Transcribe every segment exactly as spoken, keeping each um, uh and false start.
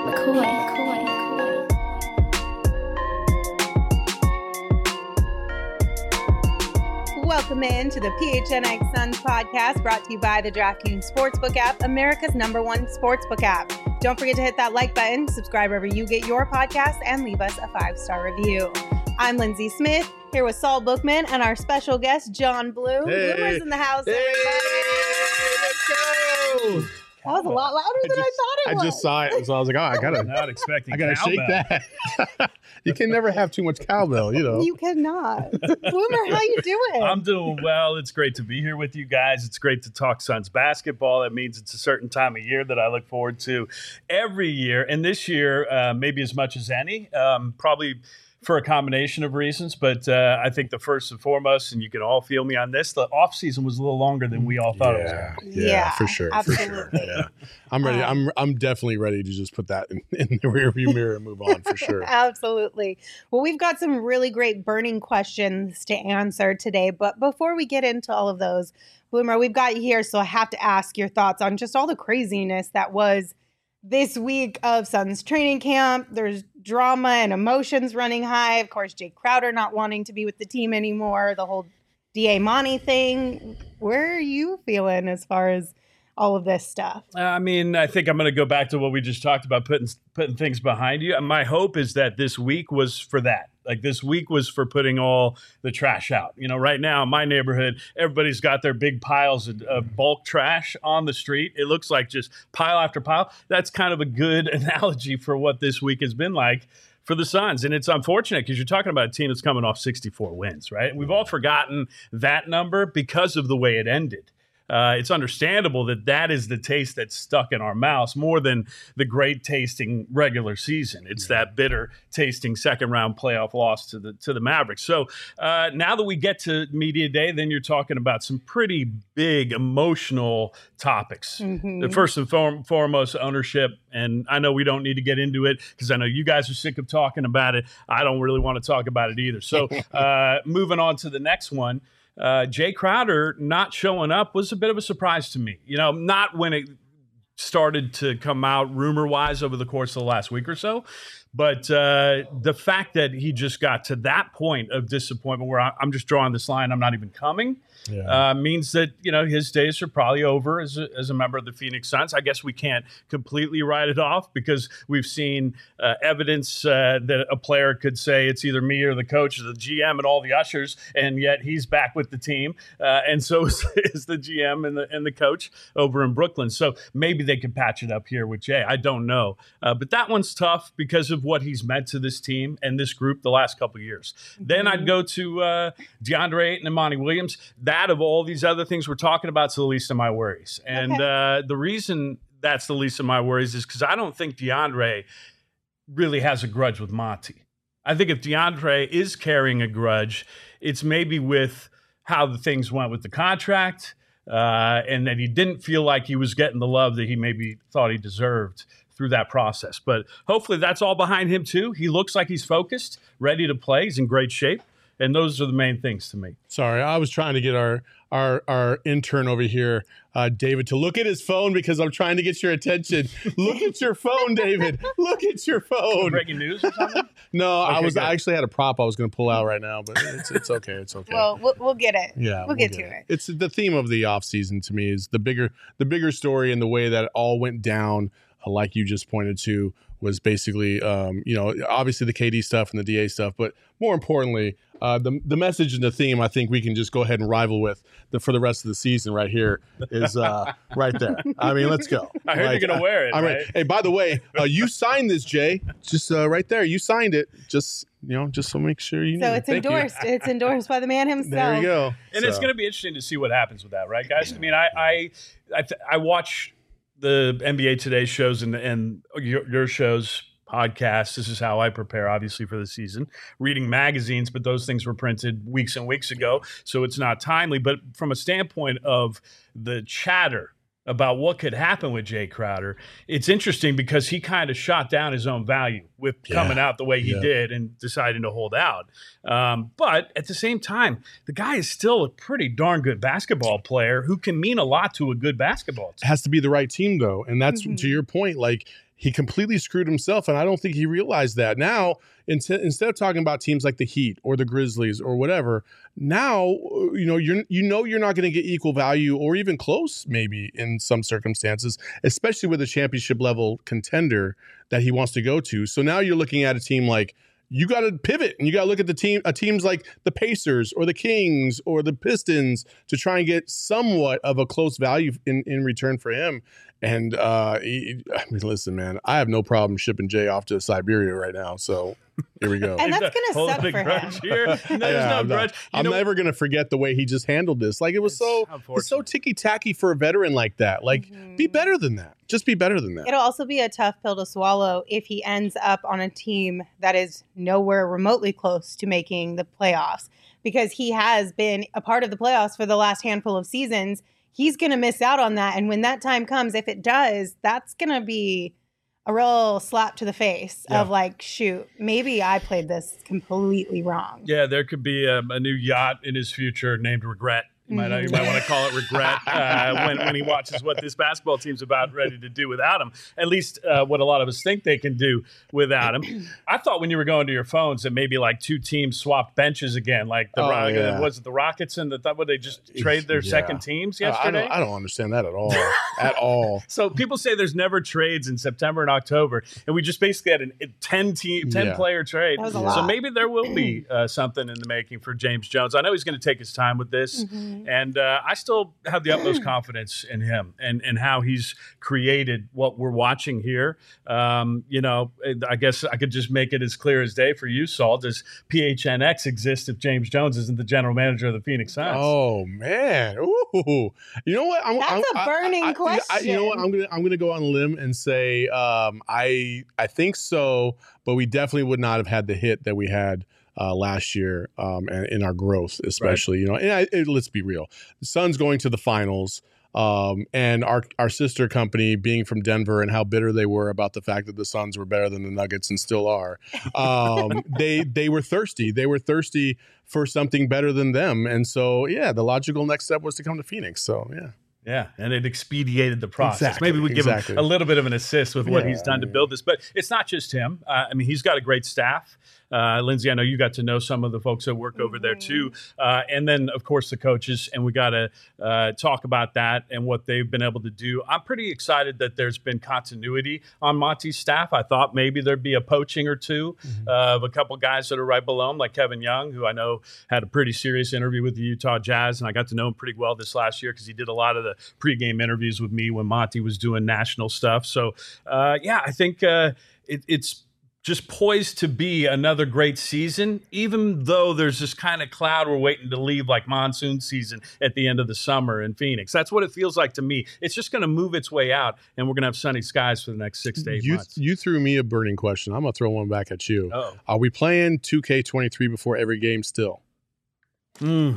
McCoy, McCoy, McCoy. Welcome in to the P H N X Suns podcast, brought to you by the DraftKings Sportsbook app, America's number one sportsbook app. Don't forget to hit that like button, subscribe wherever you get your podcast, and leave us a five-star review. I'm Lindsay Smith, here with Saul Bookman and our special guest, John Blue. Hey. Bloomer's in the house, Hey, everybody. let's go. That was a lot louder I than just, I thought it I was. just saw it, so I was like, oh, I gotta, Not expecting I gotta shake cowbell. that. You can never have too much cowbell, you know. You cannot. Bloomer, how you doing? I'm doing well. It's great to be here with you guys. It's great to talk Suns basketball. That means it's a certain time of year that I look forward to every year. And this year, uh, maybe as much as any, um, probably for a combination of reasons. But uh, I think the first and foremost, and you can all feel me on this, the offseason was a little longer than we all thought it was. yeah, Yeah, yeah, for sure, for sure. absolutely. Yeah, I'm ready. Um, I'm I'm definitely ready to just put that in, in the rearview mirror and move on for sure. Absolutely. Well, we've got some really great burning questions to answer today. But before we get into all of those, Bloomer, we've got you here, so I have to ask your thoughts on just all the craziness that was this week of Suns training camp. There's drama and emotions running high. Of course, Jay Crowder not wanting to be with the team anymore. The whole D A Monty thing. Where are you feeling as far as all of this stuff? I mean, I think I'm going to go back to what we just talked about, putting putting things behind you. And my hope is that this week was for that. Like this week was for putting all the trash out. You know, right now in my neighborhood, everybody's got their big piles of, of bulk trash on the street. It looks like just pile after pile. That's kind of a good analogy for what this week has been like for the Suns. And it's unfortunate because you're talking about a team that's coming off sixty-four wins, right? We've all forgotten that number because of the way it ended. Uh, it's understandable that that is the taste that's stuck in our mouths more than the great tasting regular season. It's that bitter tasting second round playoff loss to the to the Mavericks. So uh, now that we get to media day, then you're talking about some pretty big emotional topics. Mm-hmm. The first and form, foremost, ownership. And I know we don't need to get into it because I know you guys are sick of talking about it. I don't really want to talk about it either. So uh, moving on to the next one. Uh, Jay Crowder not showing up was a bit of a surprise to me. You know, not when it started to come out rumor-wise over the course of the last week or so, but uh, the fact that he just got to that point of disappointment where I, I'm just drawing this line, I'm not even coming, Yeah. uh, means that, you know, his days are probably over as a, as a member of the Phoenix Suns. I guess we can't completely write it off because we've seen uh, evidence uh, that a player could say it's either me or the coach or the G M and all the ushers, and yet he's back with the team. Uh, and so is, is the G M and the, and the coach over in Brooklyn. So maybe they could patch it up here with Jay. I don't know. Uh, but that one's tough because of what he's meant to this team and this group the last couple of years. Mm-hmm. Then I'd go to uh, DeAndre Ayton and Monty Williams. That of all these other things we're talking about is the least of my worries. And Okay. uh, the reason that's the least of my worries is because I don't think DeAndre really has a grudge with Monty. I think if DeAndre is carrying a grudge, it's maybe with how the things went with the contract uh, and that he didn't feel like he was getting the love that he maybe thought he deserved through that process. But hopefully that's all behind him too. He looks like he's focused, ready to play. He's in great shape. And those are the main things to me. Sorry, I was trying to get our our our intern over here, uh, David, to look at his phone because I'm trying to get your attention. Look at your phone, David. Look at your phone. Breaking news or something? No, I Okay, was good. I actually had a prop I was going to pull out right now, but it's it's okay. It's okay. Well, we'll, we'll get it. Yeah, we'll, get, to it. It's the theme of the offseason to me is the bigger the bigger story and the way that it all went down, uh, like you just pointed to, was basically, um, you know, obviously the K D stuff and the D A stuff, but more importantly, uh, the the message and the theme I think we can just go ahead and rival with the, for the rest of the season right here is uh, right there. I mean, let's go. I heard Like, you're going to wear it, I mean, right? hey, by the way, uh, you signed this, Jay. Just uh, right there, you signed it. Just you know, just so make sure you. So knew. it's Thank you. endorsed. It's endorsed by the man himself. There you go. And it's So, going to be interesting to see what happens with that, right, guys? I mean, I I I, th- I watch the N B A Today shows and and your, your shows, podcasts. This is how I prepare, obviously, for the season. Reading magazines, but those things were printed weeks and weeks ago, so it's not timely. But from a standpoint of the chatter about what could happen with Jay Crowder, it's interesting because he kind of shot down his own value with Yeah. coming out the way he Yeah. did and deciding to hold out. Um, but at the same time, the guy is still a pretty darn good basketball player who can mean a lot to a good basketball team. It has to be the right team though, and that's Mhm. to your point. Like he completely screwed himself, and I don't think he realized that. Now, in t- instead of talking about teams like the Heat or the Grizzlies or whatever, now you know you're you know you're not going to get equal value or even close, maybe in some circumstances, especially with a championship level contender that he wants to go to. So now you're looking at a team like, you got to pivot and you got to look at the team, uh, teams like the Pacers or the Kings or the Pistons to try and get somewhat of a close value in, in return for him. And uh, he, I mean, listen, man, I have no problem shipping Jay off to Siberia right now. So here we go. And that's going to suck for him. Here. No, there's yeah, no I'm, grudge. not, You I'm know, never going to forget the way he just handled this. Like it was It's so, unfortunate. it's so ticky tacky for a veteran like that. Like Mhm. be better than that. Just be better than that. It'll also be a tough pill to swallow if he ends up on a team that is nowhere remotely close to making the playoffs, because he has been a part of the playoffs for the last handful of seasons. He's going to miss out on that. And when that time comes, if it does, that's going to be a real slap to the face Yeah. of like, shoot, maybe I played this completely wrong. Yeah, there could be a, a new yacht in his future named Regret. You might, you might want to call it Regret uh, when, when he watches what this basketball team's about ready to do without him. At least uh, what a lot of us think they can do without him. I thought when you were going to your phones that maybe like two teams swapped benches again. Like the Oh, Ro- yeah. was it the Rockets and the thought would they just trade their Yeah. second teams Uh, I yesterday? don't, I don't understand that at all. At all. So people say there's never trades in September and October, and we just basically had a ten team, ten Yeah. player trade. That was a So lot. maybe there will be uh, something in the making for James Jones. I know he's going to take his time with this, Mhm. and uh, I still have the utmost confidence in him and and how he's created what we're watching here. Um, you know, I guess I could just make it as clear as day for you, Saul. Does P H N X exist if James Jones isn't the general manager of the Phoenix Suns? Oh man! Ooh, you know what? I'm, That's I'm, a burning I, I, I, I, you know what? question. I'm gonna I'm gonna go on a limb and say um, I I think so, but we definitely would not have had the hit that we had uh, last year um, and in our growth, especially. You know, and I, it, let's be real, the Suns going to the finals. Um, and our our sister company being from Denver and how bitter they were about the fact that the Suns were better than the Nuggets and still are. Um, they they were thirsty. They were thirsty for something better than them. And so, yeah, the logical next step was to come to Phoenix. So, yeah. Yeah, and it expedited the process. Exactly, Maybe we give exactly. him a little bit of an assist with what Yeah, he's done to yeah. build this. But it's not just him. Uh, I mean, he's got a great staff. Uh, Lindsay, I know you got to know some of the folks that work over there too. Uh, and then, of course, the coaches. And we got to uh, talk about that and what they've been able to do. I'm pretty excited that there's been continuity on Monty's staff. I thought maybe there'd be a poaching or two Mm-hmm. uh, of a couple guys that are right below him, like Kevin Young, who I know had a pretty serious interview with the Utah Jazz. And I got to know him pretty well this last year because he did a lot of the pregame interviews with me when Monty was doing national stuff. So, uh, yeah, I think uh, it, it's just poised to be another great season, even though there's this kind of cloud we're waiting to leave like monsoon season at the end of the summer in Phoenix. That's what it feels like to me. It's just going to move its way out, and we're going to have sunny skies for the next six to eight You, months. you threw me a burning question. I'm going to throw one back at you. Oh. Are we playing two K twenty-three before every game still? Mm.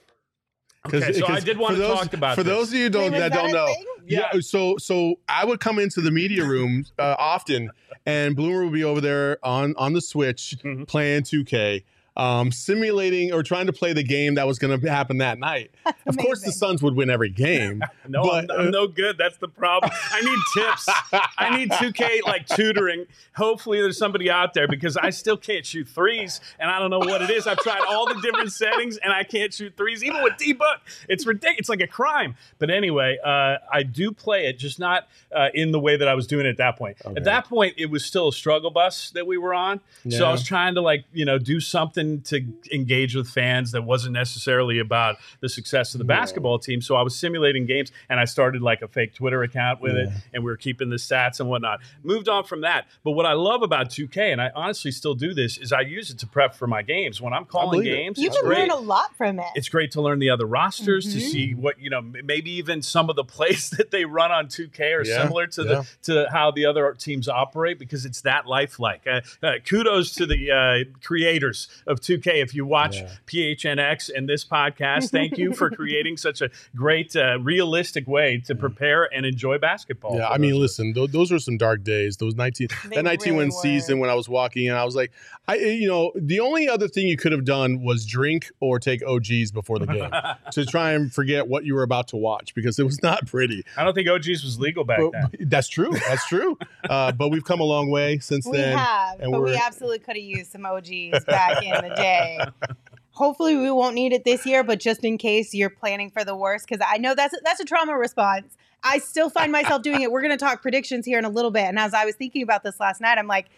Okay, so I did want for to those, talk about For this. those of you don't, Wait, is that that don't a know, thing? yeah. So so I would come into the media room uh, often, and Bloomer would be over there on on the Switch Mhm. playing two K, um, simulating or trying to play the game that was going to happen that night. Of course, the amazing. Suns would win every game. No, but, I'm, I'm uh, no good. That's the problem. I need tips. I need two K like tutoring. Hopefully, there's somebody out there because I still can't shoot threes, and I don't know what it is. I've tried all the different settings, and I can't shoot threes, even with D-Book. It's ridiculous. It's like a crime. But anyway, uh, I do play it, just not uh, in the way that I was doing it at that point. Okay. At that point, it was still a struggle bus that we were on. So Yeah. I was trying to like you know do something to engage with fans that wasn't necessarily about the success of the Yeah. basketball team. So I was simulating games, and I started like a fake Twitter account with it, Yeah. and we were keeping the stats and whatnot. Moved on from that. But what I love about two K, and I honestly still do this, is I use it to prep for my games. When I'm calling believe it. games, You it's can great. learn a lot from it. It's great to learn the other rosters, to Mhm. see what, you know, m- maybe even some of the plays that they run on two K are Yeah, similar to yeah. the to how the other teams operate because it's that lifelike. Uh, uh, kudos to the uh, creators of of two K. If you watch Yeah. P H N X and this podcast, thank you for creating such a great, uh, realistic way to prepare and enjoy basketball. Yeah, for I mean, those of us. listen, th- those were some dark days. Those nineteen, They that nineteen really win season were. when I was walking in, I was like, I, you know, the only other thing you could have done was drink or take O Gs before the game to try and forget what you were about to watch because it was not pretty. I don't think O Gs was legal back But, then. that's true. That's true. uh, but we've come a long way since We then. have, and but we we're- absolutely could have used some O Gs back in the day. Hopefully, we won't need it this year, but just in case you're planning for the worst, because I know that's that's a trauma response. I still find myself doing it. We're going to talk predictions here in a little bit, and as I was thinking about this last night, I'm like,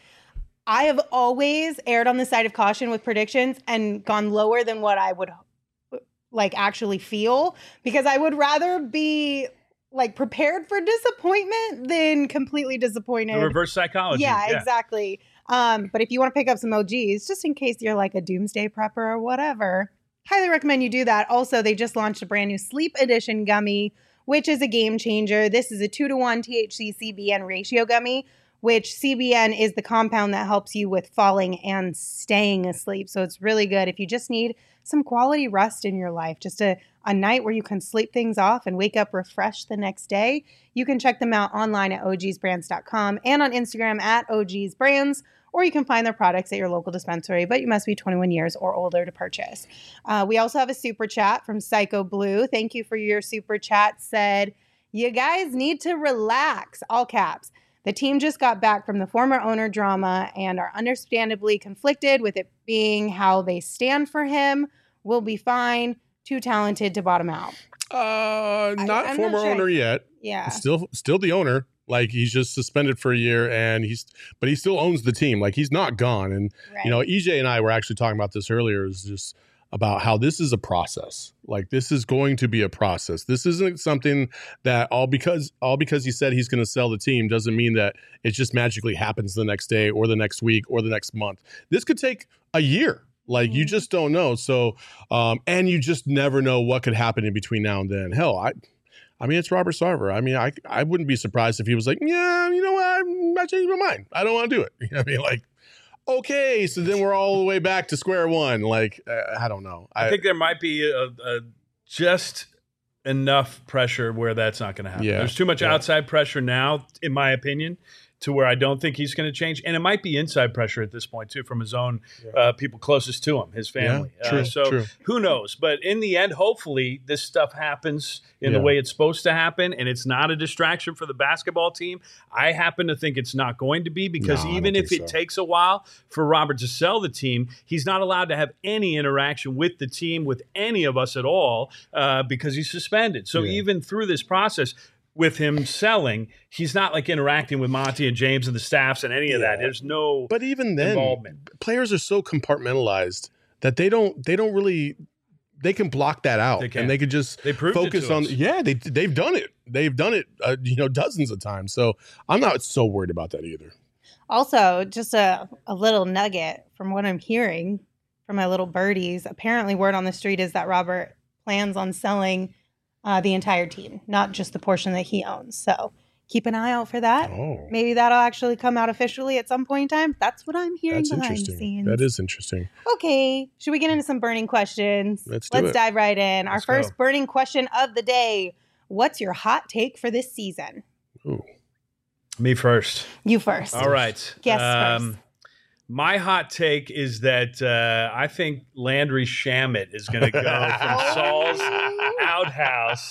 I have always erred on the side of caution with predictions and gone lower than what I would like actually feel because I would rather be like prepared for disappointment than completely disappointed. The reverse psychology. Yeah, exactly. Um, but if you want to pick up some O Gs, just in case you're like a doomsday prepper or whatever, highly recommend you do that. Also, they just launched a brand new Sleep Edition gummy, which is a game changer. This is a two to one T H C C B N ratio gummy, which C B N is the compound that helps you with falling and staying asleep. So it's really good if you just need some quality rest in your life, just a, a night where you can sleep things off and wake up refreshed the next day. You can check them out online at O Gs brands dot com and on Instagram at O Gs brands, or you can find their products at your local dispensary, but you must be twenty-one years or older to purchase. Uh, we also have a super chat from Psycho Blue. Thank you for your super chat. Said, you guys need to relax, all caps. The team just got back from the former owner drama and are understandably conflicted with it being how they stand for him. We'll be fine. Too talented to bottom out. Uh, not I'm not former sure. owner yet. Yeah. Still, still the owner. Like he's just suspended for a year, and he's, but he still owns the team. Like he's not gone. And Right. you know, E J and I were actually talking about this earlier. Is just about how this is a process. Like this is going to be a process. This isn't something that all because all because he said he's going to sell the team doesn't mean that it just magically happens the next day or the next week or the next month. This could take a year. Like you Mhm. just don't know. So, um, and you just never know what could happen in between now and then. Hell, I. I mean, it's Robert Sarver. I mean, I I wouldn't be surprised if he was like, yeah, you know what, I'm not changing my mind. I don't want to do it. You know what I mean? Like, okay, so then we're all the way back to square one. Like, uh, I don't know. I think there might be a, a just enough pressure where that's not going to happen. Yeah, There's too much yeah. outside pressure now, in my opinion, to where I don't think he's going to change. And it might be inside pressure at this point, too, from his own uh, people closest to him, his family. Yeah, true, uh, so true. who knows? But in the end, hopefully, this stuff happens in the Yeah. way it's supposed to happen, and it's not a distraction for the basketball team. I happen to think it's not going to be because No, I even don't if think it so. takes a while for Robert to sell the team, he's not allowed to have any interaction with the team, with any of us at all, uh, because he's suspended. So Yeah. even through this process, with him selling, he's not like interacting with Monty and James and the staffs and any of that. Yeah. There's no But even then, involvement. players are so compartmentalized that they don't they don't really they can block that out They can. and they could just They proved it focus to on us. yeah they they've done it they've done it uh, you know dozens of times. So I'm not so worried about that either. Also, just a, a little nugget from what I'm hearing from my little birdies. Apparently, word on the street is that Robert plans on selling uh, the entire team, not just the portion that he owns. So keep an eye out for that. Oh, Maybe that'll actually come out officially at some point in time. That's what I'm hearing that's behind the interesting. scenes. That is interesting. Okay, should we get into some burning questions? Let's do Let's it. dive right in. Our Let's first go. burning question of the day. What's your hot take for this season? Ooh. Me first. You first. All right. Guess first. My hot take is that uh, I think Landry Shamet is going to go from Saul's outhouse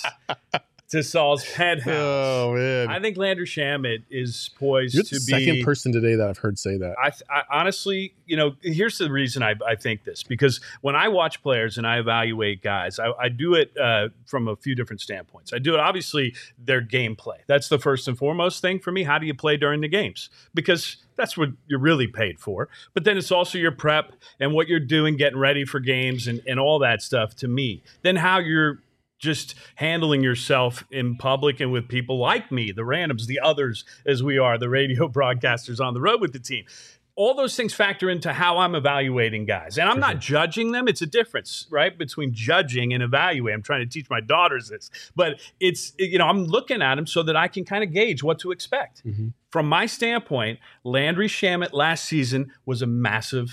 to Saul's penthouse. Oh man, I think Landry Shamet is poised you're to the be second person today that I've heard say that. I, I honestly, you know, here's the reason I, I think this, because when I watch players and I evaluate guys, I, I do it uh, from a few different standpoints. I do it, obviously, their gameplay. That's the first and foremost thing for me. How do you play during the games? Because that's what you're really paid for. But then it's also your prep and what you're doing, getting ready for games and, and all that stuff to me. Then how you're just handling yourself in public and with people like me, the randoms, the others, as we are, the radio broadcasters on the road with the team. All those things factor into how I'm evaluating guys. And I'm not judging them. It's a difference, right, between judging and evaluating. I'm trying to teach my daughters this. But it's, you know, I'm looking at them so that I can kind of gauge what to expect. Mhm. From my standpoint, Landry Shamet last season was a massive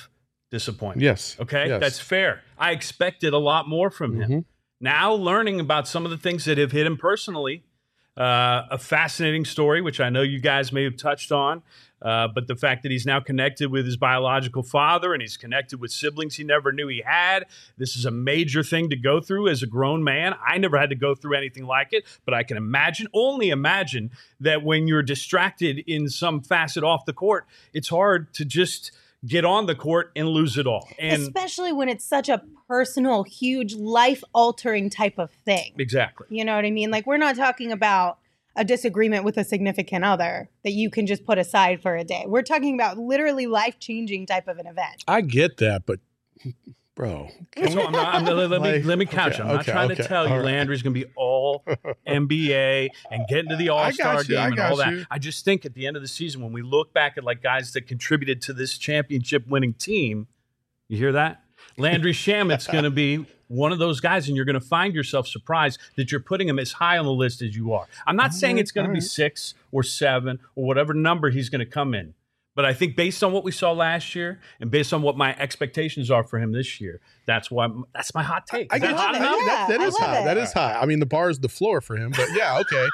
disappointment. Yes. Okay, Yes. that's fair. I expected a lot more from him. Mm-hmm. Now learning about some of the things that have hit him personally, uh, a fascinating story, which I know you guys may have touched on, uh, but the fact that he's now connected with his biological father and he's connected with siblings he never knew he had. This is a major thing to go through as a grown man. I never had to go through anything like it, but I can imagine, only imagine that when you're distracted in some facet off the court, it's hard to just get on the court and lose it all. And especially when it's such a personal, huge, life-altering type of thing. exactly. You know what I mean? Like, we're not talking about a disagreement with a significant other that you can just put aside for a day. We're talking about literally life-changing type of an event. I get that, but bro, So I'm not, I'm, let, let me Like, let me couch. okay, I'm not okay, trying okay, to tell you all right. Landry's going to be all N B A and get into the All Star got you, I game and got all that. you. I just think at the end of the season, when we look back at like guys that contributed to this championship winning team, you hear that? Landry Shamit's going to be one of those guys, and you're going to find yourself surprised that you're putting him as high on the list as you are. I'm not saying it's going to be six or seven or whatever number he's going to come in. But I think based on what we saw last year and based on what my expectations are for him this year, that's why that's my hot take. I Is that get love hot it. enough? Yeah, that, that I is love high. it. That is high. I mean, the bar is the floor for him, but yeah, okay.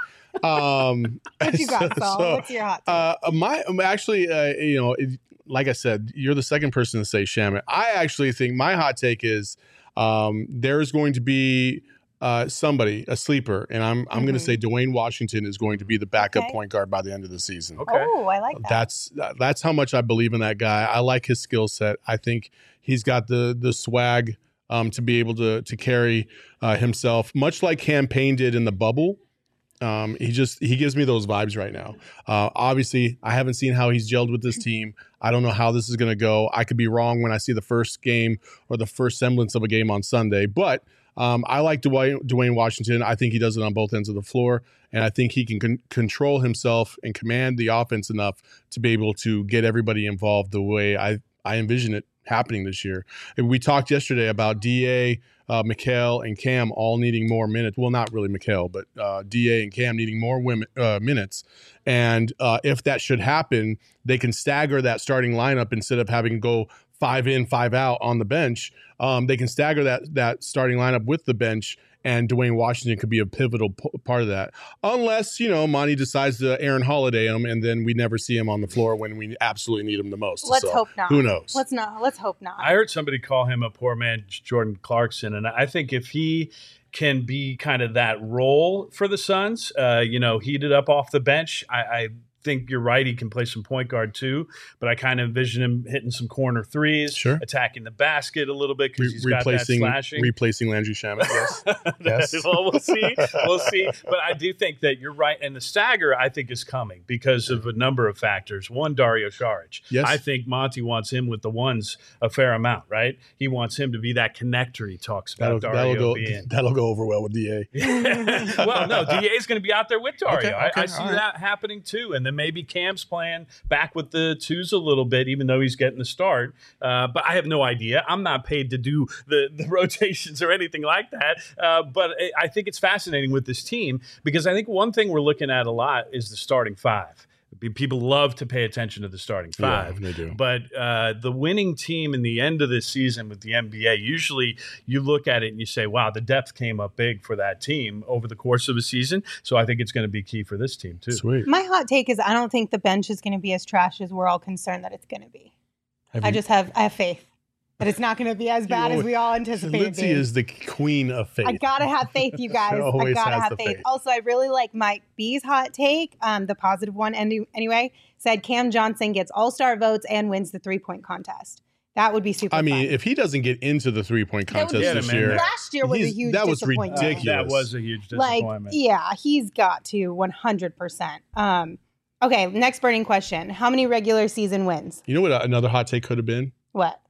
Um, What you got, Saul? so, What's your hot take? Uh, my um, actually, uh, you know, it, like I said, you're the second person to say Shamit. I actually think my hot take is um, there's going to be uh, somebody, a sleeper, and I'm I'm going to Mhm. say Dwayne Washington is going to be the backup Okay. point guard by the end of the season. Okay. Oh, I like that. That's that's how much I believe in that guy. I like his skill set. I think he's got the the swag um, to be able to to carry uh, himself, much like Cam Payne did in the bubble. Um, he just he gives me those vibes right now. Uh, obviously, I haven't seen how he's gelled with this team. I don't know how this is going to go. I could be wrong when I see the first game or the first semblance of a game on Sunday, but um, I like Dwayne, Dwayne Washington. I think he does it on both ends of the floor, and I think he can con- control himself and command the offense enough to be able to get everybody involved the way I, I envision it happening this year. And we talked yesterday about D A, uh, Mikal, and Cam all needing more minutes. Well, not really Mikal, but uh, D A and Cam needing more women, uh, minutes. And uh, if that should happen, they can stagger that starting lineup instead of having to go five in, five out on the bench. Um, they can stagger that that starting lineup with the bench, and Dwayne Washington could be a pivotal p- part of that. Unless, you know, Monty decides to Aaron Holiday him, and then we never see him on the floor when we absolutely need him the most. Let's So, hope not. Who knows? Let's not. Let's hope not. I heard somebody call him a poor man Jordan Clarkson, and I think if he can be kind of that role for the Suns, uh, you know, heated up off the bench, I, I think you're right. He can play some point guard too, but I kind of envision him hitting some corner threes, Sure. attacking the basket a little bit because Re- he's got that replacing slashing. replacing Landry Shamet. Yes. Yes. Well, we'll see. We'll see. But I do think that you're right. And the stagger, I think, is coming because of a number of factors. One, Dario Saric. Yes. I think Monty wants him with the ones a fair amount, right? He wants him to be that connector he talks about That'll, Dario that'll go. being. That'll go over well with D A. Well, no, D A is going to be out there with Dario. Okay, I, okay, I see all right. that happening too. And then maybe Cam's playing back with the twos a little bit, even though he's getting the start. Uh, but I have no idea. I'm not paid to do the, the rotations or anything like that. Uh, but I- I think it's fascinating with this team because I think one thing we're looking at a lot is the starting five. People love to pay attention to the starting five. Yeah, they do. But uh, the winning team in the end of this season with the N B A, usually you look at it and you say, wow, the depth came up big for that team over the course of a season. So I think it's going to be key for this team, too. Sweet. My hot take is I don't think the bench is going to be as trash as we're all concerned that it's going to be. Have I you- just have I have faith that it's not going to be as bad as we all anticipate. Lindsay is the queen of faith. I gotta have faith, you guys. I always gotta has have the faith. faith. Also, I really like Mike B's hot take, um, the positive one. Any, anyway, said Cam Johnson gets All Star votes and wins the three point contest. That would be super. I mean, fun. if he doesn't get into the three point That would contest be- Yeah, this man. year, last year was a he's- huge that was disappointment. ridiculous. That was a huge like, disappointment. yeah, he's got to one hundred percent. Um, okay, next burning question: how many regular season wins? you know what another hot take could have been? What?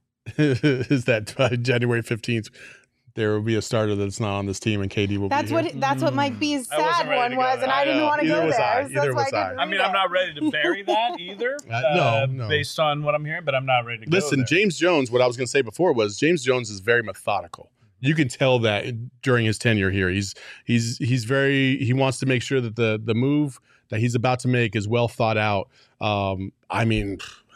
Is that by January fifteenth, there will be a starter that's not on this team and K D will That's be what. here. That's what Mike B's I wasn't sad ready one to go was, there. and I, I didn't know. want to Either go was there. I. So Either that's why was I I. didn't I mean, read I'm it. not ready to bury that either. Uh, no, no. Based on what I'm hearing, but I'm not ready to go Listen, there. James Jones, what I was going to say before was James Jones is very methodical. You can tell that during his tenure here. He's he's he's very he wants to make sure that the the move that he's about to make is well thought out. Um, I mean,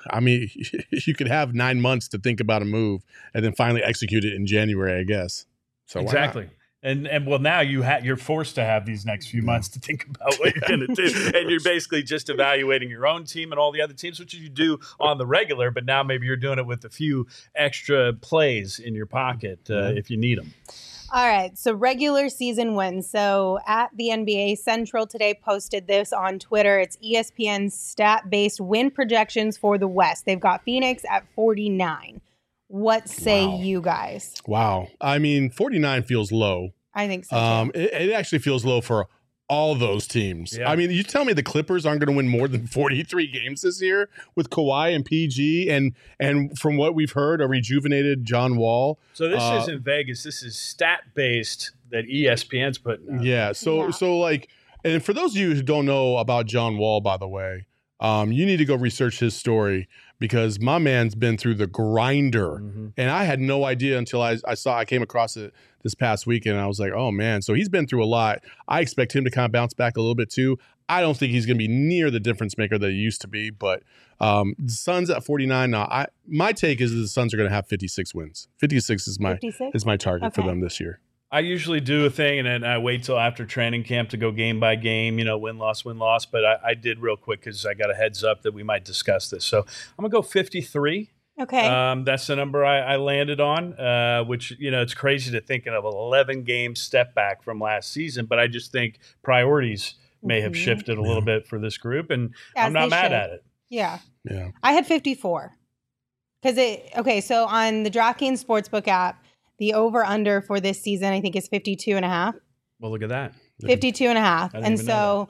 I mean, you could have nine months to think about a move and then finally execute it in January, I guess. So exactly. And and well, now you ha- you're forced to have these next few months to think about what you're going to do, and you're basically just evaluating your own team and all the other teams, which you do on the regular. But now maybe you're doing it with a few extra plays in your pocket uh, mm-hmm. if you need them. All right, so regular season wins. So at the N B A Central today posted this on Twitter. It's E S P N's stat-based win projections for the West. They've got Phoenix at forty-nine. What say wow. you guys? Wow. I mean, forty-nine feels low. I think so. Um, it, it actually feels low for all those teams. Yeah. I mean, you tell me the Clippers aren't going to win more than forty-three games this year with Kawhi and P G and and from what we've heard, a rejuvenated John Wall. So this uh, isn't Vegas. This is stat-based that E S P N's putting out. Yeah. So yeah. so like, and for those of you who don't know about John Wall, by the way, um, you need to go research his story because my man's been through the grinder, mm-hmm. and I had no idea until I, I saw I came across it this past weekend. And I was like, oh man, so he's been through a lot. I expect him to kind of bounce back a little bit too. I don't think he's going to be near the difference maker that he used to be, but um, the Suns at forty-nine. Now, I my take is that the Suns are going to have fifty-six wins. fifty-six is my fifty-six? Is my target okay. for them this year. I usually do a thing and then I wait till after training camp to go game by game, you know, win, loss, win, loss. But I, I did real quick because I got a heads up that we might discuss this. So I'm going to go fifty-three. Okay. Um, that's the number I, I landed on, uh, which, you know, it's crazy to think of an eleven game step back from last season. But I just think priorities may mm-hmm. have shifted a little bit for this group. And As I'm not mad should. at it. Yeah. Yeah. I had fifty-four. Because it, okay, so on the DraftKings Sportsbook app, the over-under for this season, I think, is fifty-two and a half. Well, look at that. fifty-two and a half. And so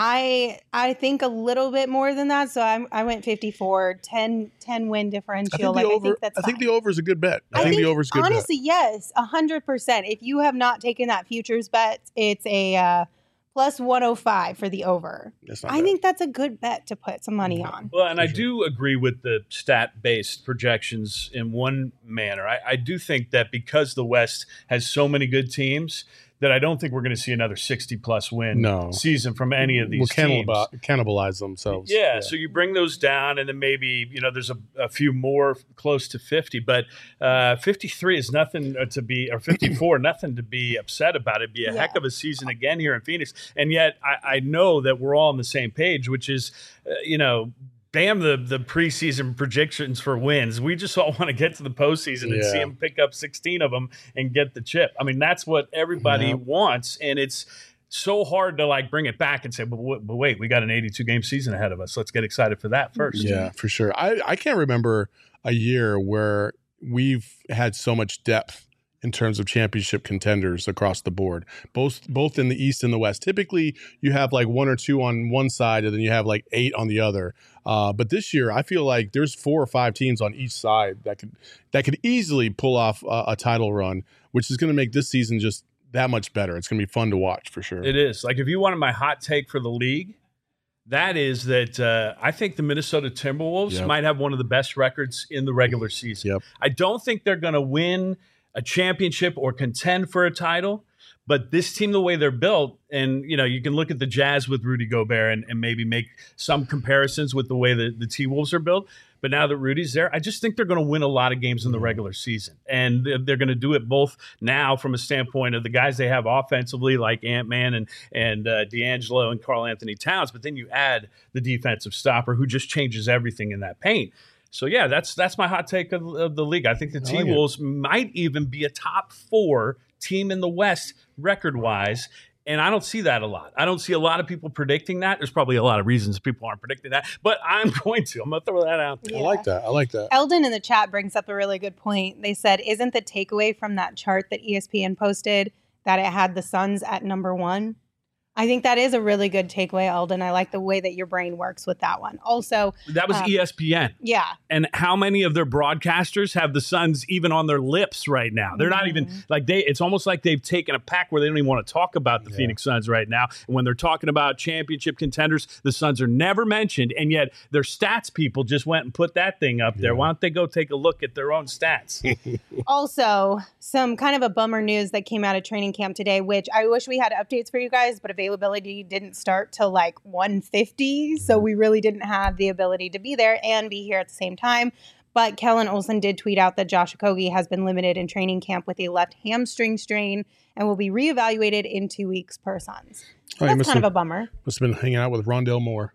I I think a little bit more than that. So I, I went fifty-four, ten, ten win differential. I think, like, over, I think that's I think the over is a good bet. I, I think, think the over is a good honestly, bet. yes, one hundred percent. If you have not taken that futures bet, it's a uh, plus one oh five for the over. That's not I bad. think that's a good bet to put some money on. Well, and I do agree with the stat-based projections in one manner. I, I do think that because the West has so many good teams, that I don't think we're going to see another sixty-plus win no. season from any of these we'll teams. We'll cannibalize themselves. Yeah, yeah, so you bring those down, and then maybe, you know, there's a, a few more close to fifty. But uh, fifty-three is nothing to be, or fifty-four, nothing to be upset about. It'd be a yeah. heck of a season again here in Phoenix. And yet I, I know that we're all on the same page, which is, uh, you know, damn the the preseason projections for wins. We just all want to get to the postseason and yeah. see them pick up sixteen of them and get the chip. I mean, that's what everybody yeah. wants, and it's so hard to like bring it back and say, but, but wait, we got an eighty-two game season ahead of us. Let's get excited for that first. Yeah, for sure. I, I can't remember a year where we've had so much depth in terms of championship contenders across the board, both both in the East and the West. Typically, you have like one or two on one side, and then you have like eight on the other. Uh, but this year, I feel like there's four or five teams on each side that could that could easily pull off a, a title run, which is going to make this season just that much better. It's going to be fun to watch for sure. It is. Like if you wanted my hot take for the league, that is that uh, I think the Minnesota Timberwolves yep. might have one of the best records in the regular season. Yep. I don't think they're going to win a championship or contend for a title, but this team, the way they're built, and you know, you can look at the Jazz with Rudy Gobert and, and maybe make some comparisons with the way that the T-Wolves are built. But now that Rudy's there, I just think they're going to win a lot of games in the regular season. And they're going to do it both now from a standpoint of the guys they have offensively, like Ant-Man and, and uh, D'Angelo and Karl Anthony Towns. But then you add the defensive stopper who just changes everything in that paint. So, yeah, that's that's my hot take of, of the league. I think the T-Wolves like might even be a top four team in the West record-wise, and I don't see that a lot. I don't see a lot of people predicting that. There's probably a lot of reasons people aren't predicting that, but I'm going to. I'm going to throw that out there. Yeah. I like that. I like that. Eldon in the chat brings up a really good point. They said, isn't the takeaway from that chart that E S P N posted that it had the Suns at number one? I think that is a really good takeaway, Eldon. I like the way that your brain works with that one. Also, that was um, E S P N. Yeah. And how many of their broadcasters have the Suns even on their lips right now? They're mm-hmm. not even like they, it's almost like they've taken a pack where they don't even want to talk about the yeah. Phoenix Suns right now. And when they're talking about championship contenders, the Suns are never mentioned. And yet their stats people just went and put that thing up there. Yeah. Why don't they go take a look at their own stats? Also, some kind of a bummer news that came out of training camp today, which I wish we had updates for you guys, but availability didn't start till like one fifty. So we really didn't have the ability to be there and be here at the same time. But Kellen Olson did tweet out that Josh Okogie has been limited in training camp with a left hamstring strain and will be reevaluated in two weeks per Suns. Oh, That's must kind have, of a bummer. Must have been hanging out with Rondell Moore.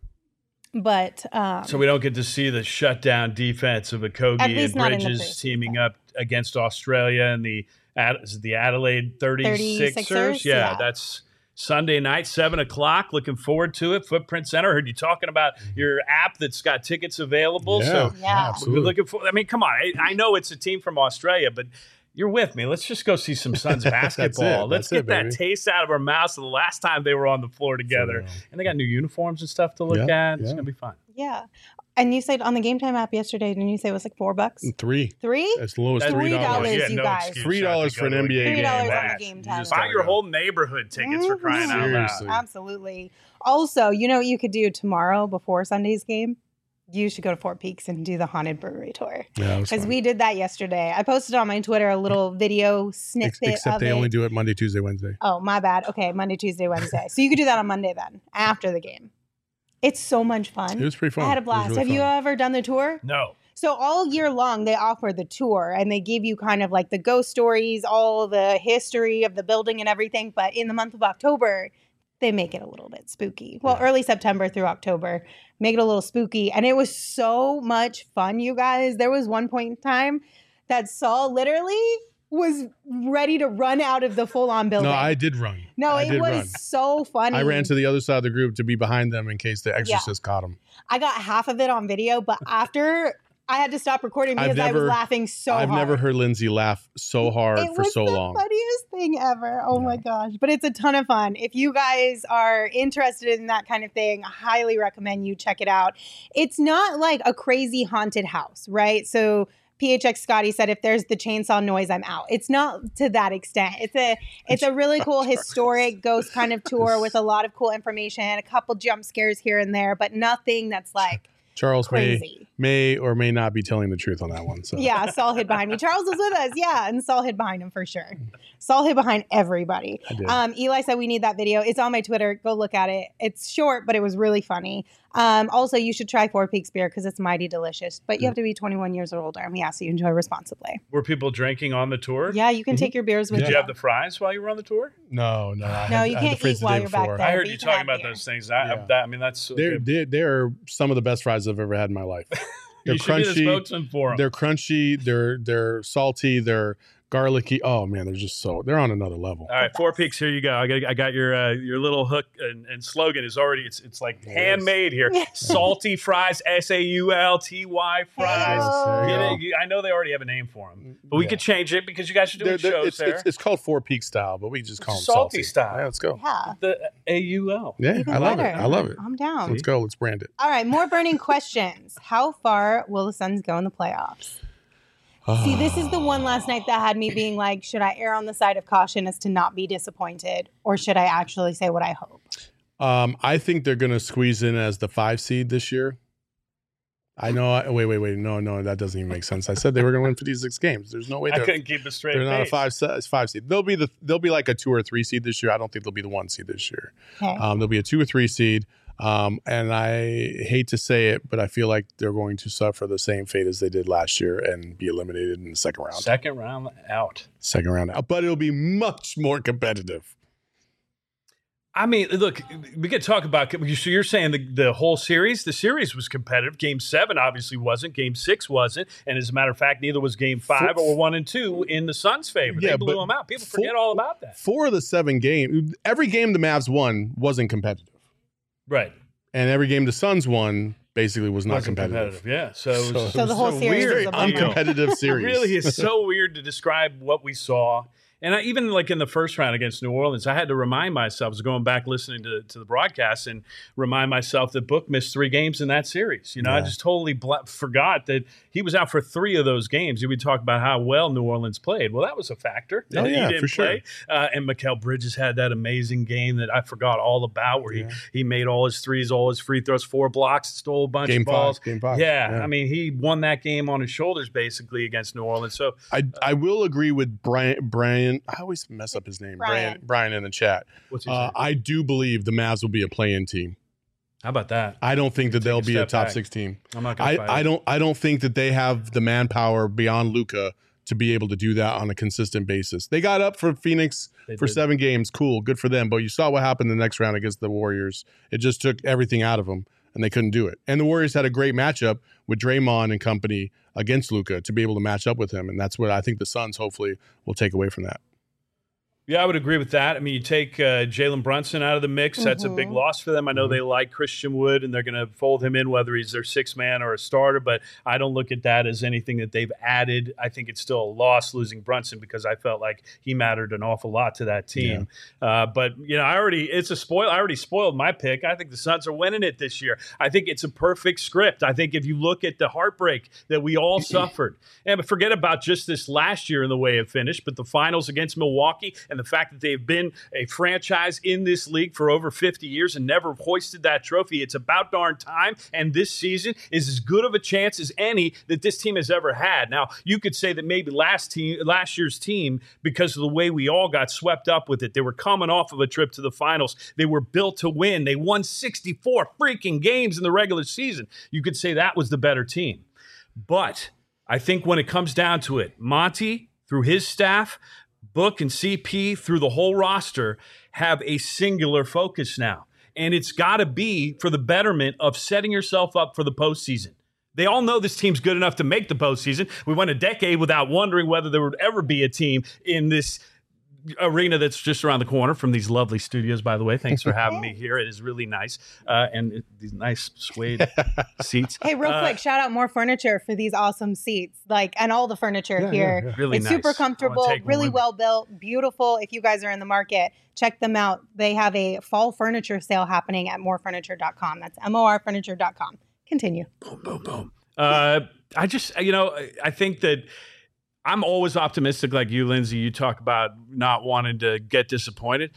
But um, So we don't get to see the shutdown defense of At Okogie least and not in the Bridges preseason. teaming up against Australia and the Ad- is it the Adelaide thirty-sixers. thirty-sixers, Yeah, yeah. that's Sunday night, seven o'clock. Looking forward to it. Footprint Center. Heard you talking about your app that's got tickets available. Yeah, So Yeah. absolutely. we're looking for. I mean, come on. I, I know it's a team from Australia, but you're with me. Let's just go see some Suns basketball. Let's That's get it, that baby. taste out of our mouths of the last time they were on the floor together. So, And they got new uniforms and stuff to look Yeah, at. It's yeah. gonna be fun. yeah. And you said on the Game Time app yesterday, didn't you say it was like four bucks? Three. Three? As low as That's three Three dollars. dollars, Yeah, you no guys. excuse Three not to dollars go for an to a N B A game. Three dollars on match. the Game You Time just app. Buy gotta your go. whole neighborhood tickets for crying out loud. Seriously. Absolutely. Also, you know what you could do tomorrow before Sunday's game? You should go to Fort Peaks and do the haunted brewery tour. Yeah, it was Because fun. we did that yesterday. I posted on my Twitter a little video Ex- snippet Except of they it. only do it Monday, Tuesday, Wednesday. Oh, my bad. Okay, Monday, Tuesday, Wednesday. So you could do that on Monday then, after the game. It's so much fun. It was pretty fun. I had a It was blast. really Have you fun. ever done the tour? No. So all year long, they offer the tour and they give you kind of like the ghost stories, all the history of the building and everything. But in the month of October, they make it a little bit spooky. Well, Yeah. early September through October, make it a little spooky. And it was so much fun, you guys. There was one point in time that Saul literally was ready to run out of the full-on building. No, I did run. No, I it did was run. so funny. I ran to the other side of the group to be behind them in case the exorcist caught him. I got half of it on video, but after I had to stop recording I've because I was never- laughing so I've hard. never heard Lindsay laugh so hard It for was so the long. funniest thing ever. Oh my Yeah. gosh. But it's a ton of fun. If you guys are interested in that kind of thing, I highly recommend you check it out. It's not like a crazy haunted house, right? So P H X Scotty said, if there's the chainsaw noise, I'm out. It's not to that extent. It's a it's a really cool historic ghost kind of tour with a lot of cool information, a couple jump scares here and there, but nothing that's like Charles may, crazy. may or may not be telling the truth on that one. So Yeah, Saul hid behind me. Charles was with us, yeah, and Saul hid behind him for sure. Saul hid behind everybody. I did. Um, Eli said we need that video. It's on my Twitter. Go look at it. It's short, but it was really funny. Um, also, you should try Four Peaks beer because it's mighty delicious. But you have to be twenty-one years or older, and we ask that you enjoy responsibly. Were people drinking on the tour? Yeah, you can take your beers with Did you. you have the fries while you were on the tour? no, no, I No, had- you I had the can't fridge eat the while day you're back before. there. I but heard you you can talking have about beer. those things. I, Yeah. that, I mean, that's They're, okay. they're, they're some of the best fries I've ever had in my life. They're you should be the crunchy. spokesman for them. They're crunchy. They're they're salty. They're garlicky. Oh man, they're just so they're on another level. All right, Four Peaks. Here you go. I got, I got your uh, your little hook and, and slogan is already. It's it's like It is. handmade here. Salty fries, S A U L T Y fries. Hey-o. There Get you it? You- I know they already have a name for them, but we Yeah. could change it because you guys are doing They're- they're- shows it's, there. it's, it's called Four Peak style, but we just call them Salty salty style. Yeah, let's go. Yeah, the A U L. Yeah, even I love better. it. I love it. I'm down. Let's go. Let's brand it. All right, more burning questions. How far will the Suns go in the playoffs? See, this is the one last night that had me being like, should I err on the side of caution as to not be disappointed, or should I actually say what I hope? Um, I think they're going to squeeze in as the five seed this year. I know. I, wait, wait, wait. No, no, that doesn't even make sense. I said they were going to win fifty-six games. There's no way I they're, couldn't keep a straight they're not a face. five se- five seed. They'll be the they'll be like a two or three seed this year. I don't think they'll be the one seed this year. Okay. Um, they'll be a two or three seed. Um, and I hate to say it, but I feel like they're going to suffer the same fate as they did last year and be eliminated in the second round. Second round out. Second round out. But it'll be much more competitive. I mean, look, we could talk about. So you're saying the, the whole series? The series was competitive. Game seven obviously wasn't. Game six wasn't. And as a matter of fact, neither was game five Four- or one and two in the Suns' favor. Yeah, they blew but them out. People four- forget all about that. Four of the seven games, every game the Mavs won wasn't competitive. Right. And every game the Suns won basically was not Wasn't competitive. Yeah. So, it was- So So the whole so series weird. was a Very bummer. uncompetitive It series. really is so weird to describe what we saw. And I, even like in the first round against New Orleans, I had to remind myself, I was going back listening to, to the broadcast and remind myself that Book missed three games in that series. You know, I Yeah. just totally bla- forgot that he was out for three of those games. You would talk about how well New Orleans played. Well, that was a factor. Oh, He yeah, didn't for sure. play. Uh, and Mikal Bridges had that amazing game that I forgot all about where Yeah. he, he made all his threes, all his free throws, four blocks, stole a bunch Game of balls. five. Game five. Yeah, I mean, he won that game on his shoulders basically against New Orleans. So I, I will agree with Brian, Brian Brian, I always mess up his name, Brian, Brian, Brian in the chat. What's he Uh, saying? I do believe the Mavs will be a play-in team. How about that? I don't think that Take they'll a be a step top back. six team. I'm not going I, to fight I it. don't I don't think that they have the manpower beyond Luka to be able to do that on a consistent basis. They got up for Phoenix They for did. seven games. Cool, good for them. But you saw what happened the next round against the Warriors. It just took everything out of them, and they couldn't do it. And the Warriors had a great matchup with Draymond and company against Luka to be able to match up with him, and that's what I think the Suns hopefully will take away from that. Yeah, I would agree with that. I mean, you take uh, Jalen Brunson out of the mix. That's a big Mhm. loss for them. I know Mhm. they like Christian Wood, and they're going to fold him in, whether he's their sixth man or a starter. But I don't look at that as anything that they've added. I think it's still a loss losing Brunson because I felt like he mattered an awful lot to that team. Uh, but, you know, I already, it's a spoil. I already spoiled my pick. I think the Suns are winning it this year. I think it's a perfect script. I think if you look at the heartbreak that we all suffered, and forget about just this last year and the way it finished, but the finals against Milwaukee and the fact that they've been a franchise in this league for over fifty years and never hoisted that trophy. It's about darn time. And this season is as good of a chance as any that this team has ever had. Now, you could say that maybe last team, last year's team, because of the way we all got swept up with it, they were coming off of a trip to the finals. They were built to win. They won sixty-four freaking games in the regular season. You could say that was the better team. But I think when it comes down to it, Monty, through his staff, Book and C P, through the whole roster, have a singular focus now. And it's got to be for the betterment of setting yourself up for the postseason. They all know this team's good enough to make the postseason. We went a decade without wondering whether there would ever be a team in this arena that's just around the corner from these lovely studios, by the way. Thanks for having me here. It is really nice. Uh, and it, these nice suede seats. Hey, real Uh, quick, shout out More Furniture for these awesome seats, like, and all the furniture Yeah, here. yeah, yeah. Really It's nice. super I wanna comfortable, take one really with me. well built, beautiful. If you guys are in the market, check them out. They have a fall furniture sale happening at more furniture dot com. That's M O R furniture dot com. Continue. Boom, boom, boom. Uh, I just, you know, I- I think that I'm always optimistic like you, Lindsay. You talk about not wanting to get disappointed.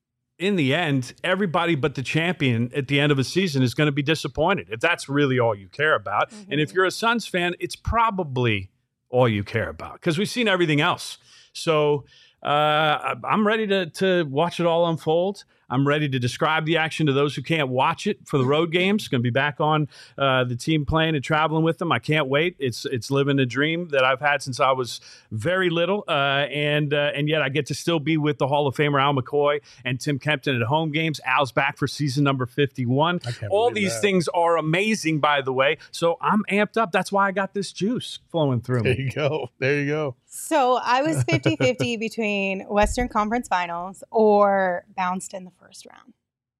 In the end, everybody but the champion at the end of a season is going to be disappointed if that's really all you care about. And if you're a Suns fan, it's probably all you care about because we've seen everything else. So uh, I'm ready to, to watch it all unfold. I'm ready to describe the action to those who can't watch it for the road games. Going to be back on uh, the team playing and traveling with them. I can't wait. It's it's living a dream that I've had since I was very little, uh, and uh, and yet I get to still be with the Hall of Famer Al McCoy and Tim Kempton at home games. Al's back for season number fifty-one. I can't All believe these that. things are amazing, by the way. So I'm amped up. That's why I got this juice flowing through There me. you go. There you go. So I was fifty-fifty between Western Conference Finals or bounced in the first round.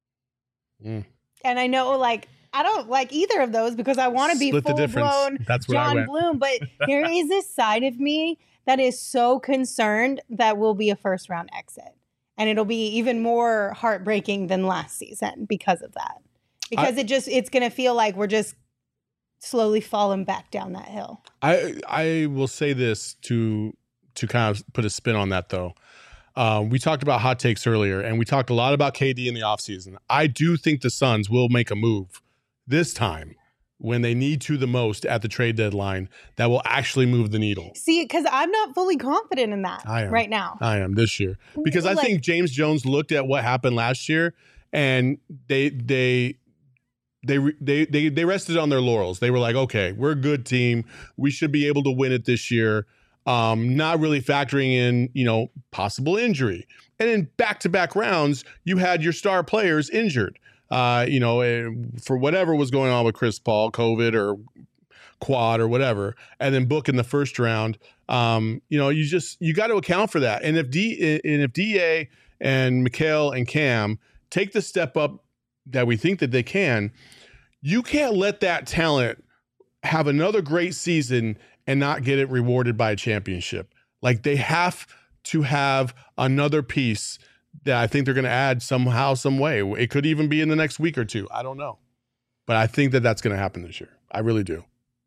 Mm. And I know, like, I don't like either of those because I want to be Split the full difference. blown That's where I John went. Bloom. But here is this side of me that is so concerned that we'll be a first round exit. And it'll be even more heartbreaking than last season because of that. Because it just, it's going to feel like we're just slowly falling back down that hill. I I will say this to to kind of put a spin on that though. Um, we talked about hot takes earlier, and we talked a lot about K D in the offseason. I do think the Suns will make a move this time when they need to the most at the trade deadline that will actually move the needle. See, because I'm not fully confident in that I am. right now. I am this year because I Like- think James Jones looked at what happened last year, and they they. They, they they they rested on their laurels. They were like, okay, we're a good team. We should be able to win it this year. Um, not really factoring in, you know, possible injury. And in back-to-back rounds, you had your star players injured. Uh, you know, eh, for whatever was going on with Chris Paul, COVID or quad or whatever, and then Book in the first round. Um, you know, you just you got to account for that. And if D and if D A and Mikal and Cam take the step up that we think that they can, you can't let that talent have another great season and not get it rewarded by a championship. Like they have to have another piece that I think they're going to add somehow, some way. It could even be in the next week or two. I don't know. But I think that that's going to happen this year. I really do.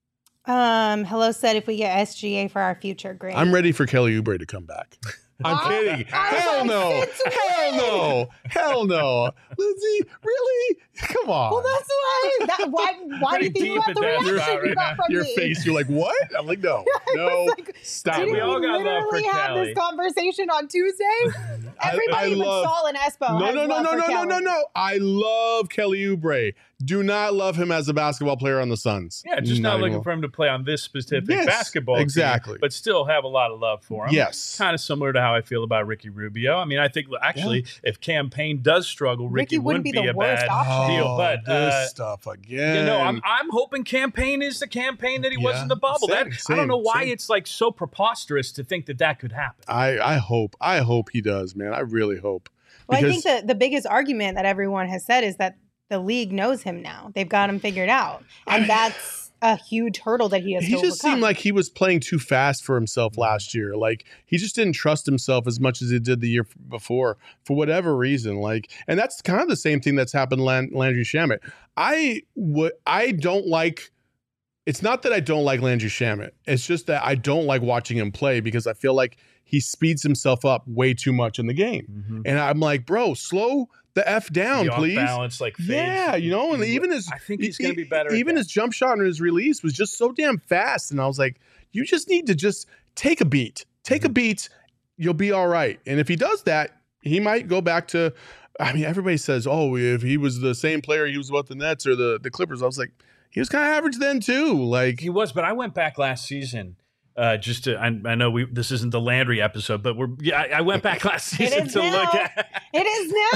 Um, Hello said if we get S G A for our future, great. I'm ready for Kelly Oubre to come back. I'm I- kidding. I was Hell like, no. since Hell no. Hell no. Lindsay, really? Come on. Well, that's why. That, why? Why do you Pretty think you deep got the at that reaction spot you right got now. from Your me? face, you're like, what? I'm like, no, no, like, stop. Didn't We we, all got love for literally have Kelly. this conversation on Tuesday? I- Everybody I but love- Saul and Espo No, has no, no, love no, for no, no, Kelly. no, no. I love Kelly Oubre. Do not love him as a basketball player on the Suns. Yeah, just not, looking anymore. for him to play on this specific Yes, basketball exactly. team, but still have a lot of love for him. Yes. Kind of similar to how I feel about Ricky Rubio. I mean, I think actually if Campaign does struggle, Ricky, Ricky wouldn't be the a worst bad option. deal. But Oh, this uh, stuff again. you know, I'm I'm hoping Campaign is the Campaign that he was Yeah, in the bubble. same, that I don't same, know why same. it's like so preposterous to think that that could happen. I, I hope. I hope he does, man. I really hope. Well, I Because- think the, the biggest argument that everyone has said is that the league knows him now. They've got him figured out. And I- that's a huge hurdle that he has He to just overcome. seemed like he was playing too fast for himself last year. Like he just didn't trust himself as much as he did the year f- before for whatever reason. Like, and that's kind of the same thing that's happened to Lan- Landry Shamet. I would, I don't like. It's not that I don't like Landry Shamet. It's just that I don't like watching him play because I feel like he speeds himself up way too much in the game. And I'm like, bro, slow the F down, The off please. balance, like fades. Yeah, you know, and He- even his I think he's e- going to be better. at Even that. his jump shot and his release was just so damn fast, and I was like, you just need to just take a beat, take Mm-hmm. a beat, you'll be all right. And if he does that, he might go back to. I mean, everybody says, oh, if he was the same player he was with the Nets or the the Clippers, I was like, he was kind of average then too. Like He was, but I went back last season. Uh, just to, I, I know we this isn't the Landry episode, but we're yeah. I, I went back last season is to look now. at It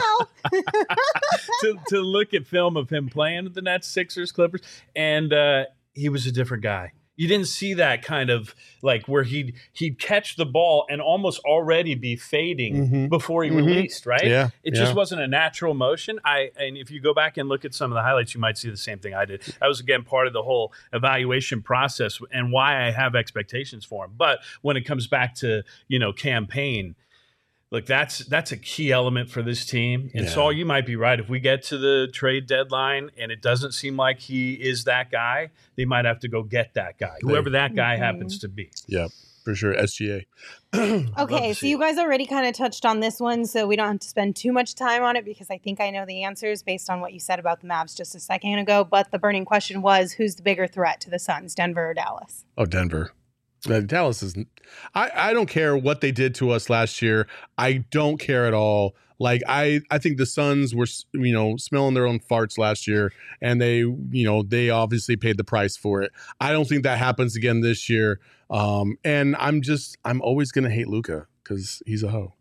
is now. to, to look at film of him playing with the Nets, Sixers, Clippers, and uh, he was a different guy. You didn't see that kind of like where he'd he'd catch the ball and almost already be fading Mhm. before he Mhm. released, right? Yeah, It yeah. just wasn't a natural motion. I and if you go back and look at some of the highlights, you might see the same thing I did. That was again part of the whole evaluation process and why I have expectations for him. But when it comes back to, you know, campaign, look, that's that's a key element for this team. And Yeah. Saul, you might be right. If we get to the trade deadline and it doesn't seem like he is that guy, they might have to go get that guy, whoever that guy Mhm. happens to be. yeah, for sure, S G A. love Okay, to so see you it. guys already kind of touched on this one, so we don't have to spend too much time on it because I think I know the answers based on what you said about the Mavs just a second ago. But the burning question was, who's the bigger threat to the Suns, Denver or Dallas? Oh, Denver. Uh, Dallas is. I, I don't care what they did to us last year. I don't care at all. Like I, I think the Suns were, you know, smelling their own farts last year, and they, you know, they obviously paid the price for it. I don't think that happens again this year. Um, and I'm just, I'm always gonna hate Luka because he's a hoe.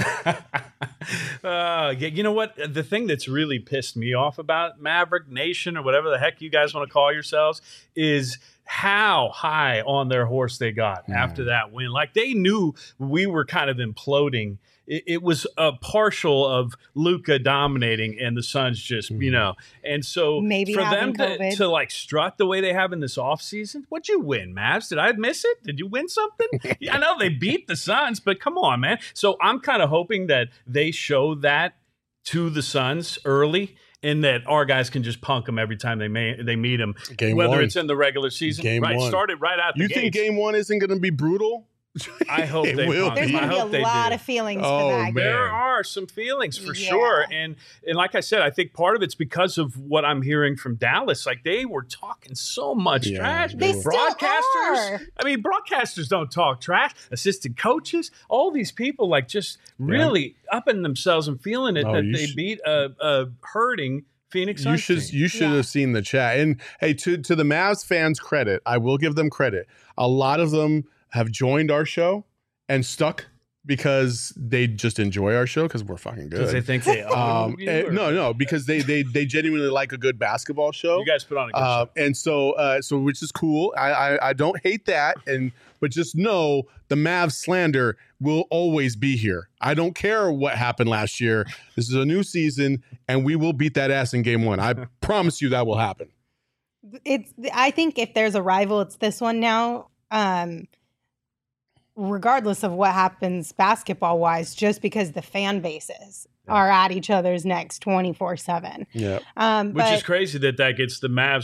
uh, yeah, you know what? The thing that's really pissed me off about Maverick Nation or whatever the heck you guys want to call yourselves is how high on their horse they got Mm. after that win. Like they knew we were kind of imploding. It, it was a partial of Luka dominating and the Suns just, you Mm. know, and so Maybe for them having to, COVID. to like strut the way they have in this offseason, what'd you win, Mavs? Did I miss it? Did you win something? Yeah, I know they beat the Suns, but come on, man. So I'm kind of hoping that they show that to the Suns early and that our guys can just punk them every time they may they meet them, Game whether one. it's in the regular season. Game right, one. started right out the You think gates. game one isn't gonna be brutal? I hope It they will punk There's be. them. going I to hope be they a lot do. of feelings Oh, for that. man. There are some feelings for Yeah. sure, and and like I said, I think part of it's because of what I'm hearing from Dallas. Like they were talking so much Yeah, trash. they They were. still Broadcasters. are. I mean, broadcasters don't talk trash. Assistant coaches, all these people, like just really upping themselves and feeling it Oh, that you they sh- beat a, a hurting Phoenix You Suns should team. you should Yeah. have seen the chat. And hey, to to the Mavs fans' credit, I will give them credit. A lot of them have joined our show and stuck because they just enjoy our show because we're fucking because they good. think they own Um, you, eh, or- no, no, because they they they genuinely like a good basketball show. You guys put on a good Uh, show. and so, uh, so which is cool. I, I I don't hate that, and but just know the Mavs slander will always be here. I don't care what happened last year. This is a new season, and we will beat that ass in game one. I promise you that will happen. It's. I think if there's a rival, it's this one now. Um, regardless of what happens basketball wise, just because the fan bases Yeah. are at each other's necks twenty-four seven. Yeah, Um, Which but is crazy that that gets the Mavs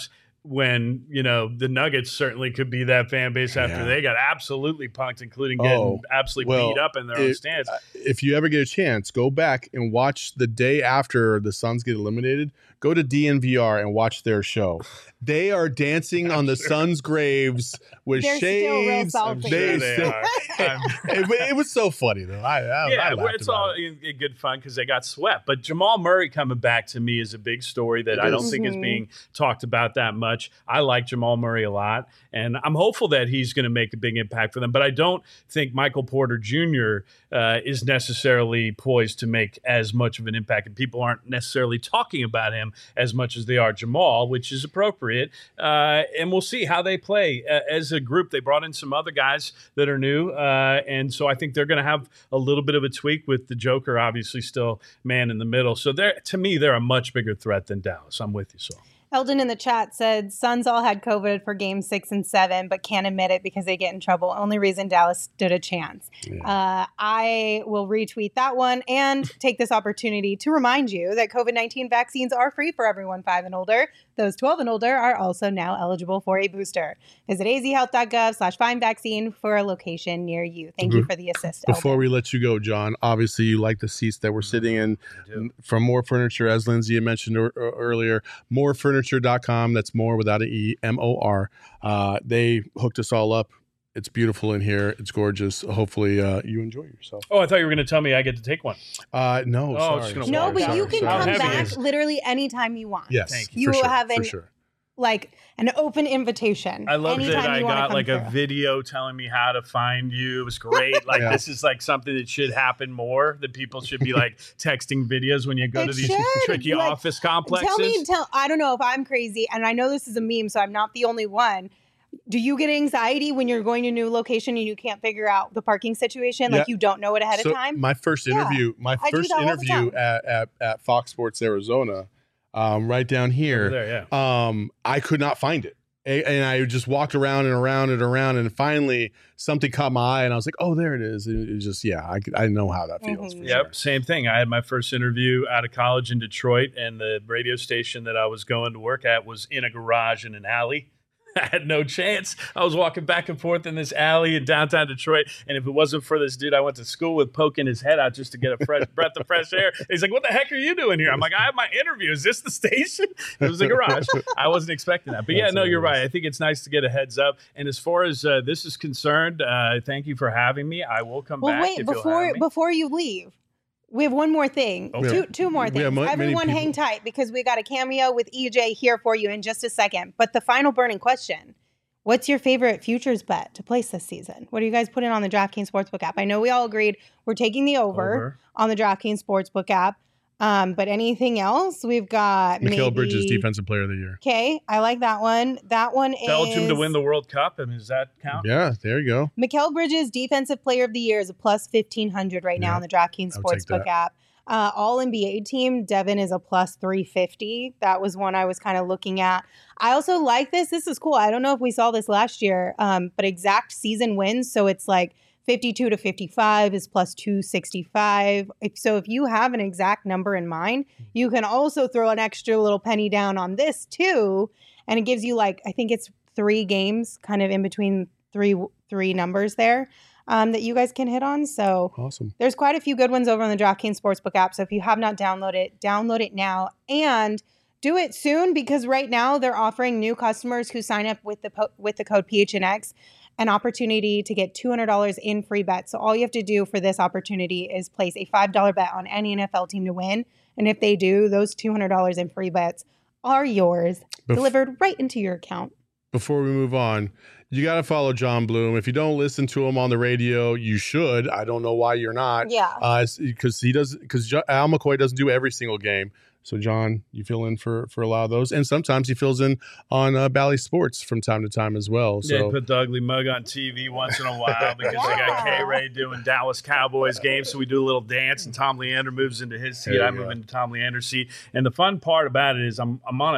when, you know, the Nuggets certainly could be that fan base after Yeah. they got absolutely punked, including getting Oh, absolutely well, beat up in their own it- stands. If you ever get a chance, go back and watch the day after the Suns get eliminated. Go to D N V R and watch their show. They are dancing on the sure. Suns' graves with They're still real shades. salty. I'm They sure they still- are. I'm- it, it was so funny though. I, I, yeah, I well, laughed it's about all it. in, in good fun because they got swept. But Jamal Murray coming back to me is a big story that It I don't is. think is Mhm. being talked about that much. I like Jamal Murray a lot, and I'm hopeful that he's going to make a big impact for them. But I don't think Michael Porter Junior Uh, is necessarily poised to make as much of an impact, and people aren't necessarily talking about him as much as they are Jamal, which is appropriate. Uh, and we'll see how they play uh, as a group. They brought in some other guys that are new, uh, and so I think they're going to have a little bit of a tweak with the Joker, obviously still man in the middle. So they're, to me, they're a much bigger threat than Dallas. I'm with you, Saul. Eldon in the chat said Suns all had COVID for game six and seven, but can't admit it because they get in trouble. Only reason Dallas stood a chance. Yeah. Uh, I will retweet that one and take this opportunity to remind you that COVID nineteen vaccines are free for everyone five and older. Those twelve and older are also now eligible for a booster. Visit azhealth.gov slash find vaccine for a location near you. Thank you for the assist, Before Eldon. we let you go, John, obviously you like the seats that we're sitting in from More Furniture, as Lindsay had mentioned er- er- earlier. more furniture dot com. That's more without an E, M O R. Uh, they hooked us all up. It's beautiful in here. It's gorgeous. Hopefully uh, you enjoy yourself. Oh, I thought you were going to tell me I get to take one. Uh, no, Oh, sorry. it's just gonna No, Sorry, but sorry, you can sorry. How come heavy back is it? literally anytime you want. Yes, Thank you. for You sure, have for an sure. like an open invitation. I love anytime that I you wanna got come like a through. video telling me how to find you. It was great. Like Yeah. this is like something that should happen more. That people should be like texting videos when you go It to these should. tricky Like, office complexes. Tell me, tell. I don't know if I'm crazy, and I know this is a meme, so I'm not the only one. Do you get anxiety when you're going to a new location and you can't figure out the parking situation? Like Yeah. you don't know it ahead So of time? my first Yeah. interview, my I do first that all the interview time. at, at, at Fox Sports Arizona, um, right down Over here, there, yeah. um, I could not find it. A- And I just walked around and around and around, and finally something caught my eye, and I was like, "Oh, there it is!" And it was just, yeah, I, could- I know how that feels. Mhm. For Yep, sure. same thing. I had my first interview out of college in Detroit, and the radio station that I was going to work at was in a garage in an alley. I had no chance. I was walking back and forth in this alley in downtown Detroit, and if it wasn't for this dude I went to school with poking his head out just to get a fresh breath of fresh air, he's like, "What the heck are you doing here?" I'm like, "I have my interview. Is this the station?" It was a garage. I wasn't expecting that, but yeah, That's no, you're hilarious. right. I think it's nice to get a heads up. And as far as uh, this is concerned, uh, thank you for having me. I will come Well, back. wait if you'll before have me. before you leave. We have one more thing. Okay. Two two more We things. have mo- many Everyone people- hang tight because we got a cameo with E J here for you in just a second. But the final burning question. What's your favorite futures bet to place this season? What do you guys put in on the DraftKings Sportsbook app? I know we all agreed we're taking the over, Over. on the DraftKings Sportsbook app. Um, but anything else? We've got Mikal maybe... Bridges, Defensive Player of the Year. Okay, I like that one. That one is Belgium to win the World Cup. I mean, does that count? Yeah, there you go. Mikal Bridges, Defensive Player of the Year, is a plus fifteen hundred right now Yeah, on the DraftKings I would take Sportsbook that. app. Uh, All N B A team, Devin is a plus three fifty. That was one I was kind of looking at. I also like this. This is cool. I don't know if we saw this last year, um, but exact season wins. So it's like fifty-two to fifty-five is plus two sixty-five. If, so if you have an exact number in mind, you can also throw an extra little penny down on this too. And it gives you like, I think it's three games kind of in between three three numbers there um, that you guys can hit on. So Awesome. there's quite a few good ones over on the DraftKings Sportsbook app. So if you have not downloaded it, download it now and do it soon because right now they're offering new customers who sign up with the po- with the code P H N X an opportunity to get two hundred dollars in free bets. So all you have to do for this opportunity is place a five dollar bet on any N F L team to win. And if they do, those two hundred dollars in free bets are yours, Bef- delivered right into your account. Before we move on, you got to follow John Bloom. If you don't listen to him on the radio, you should. I don't know why you're not. Yeah. Because he does. Because Al McCoy doesn't do every single game. So John, you fill in for for a lot of those, and sometimes he fills in on uh, Bally Sports from time to time as well. Yeah, So put the ugly mug on T V once in a while because I got Yeah. K Ray doing Dallas Cowboys games, so we do a little dance, and Tom Leander moves into his seat. There I you move go. into Tom Leander's seat. And the fun part about it is I'm I'm on a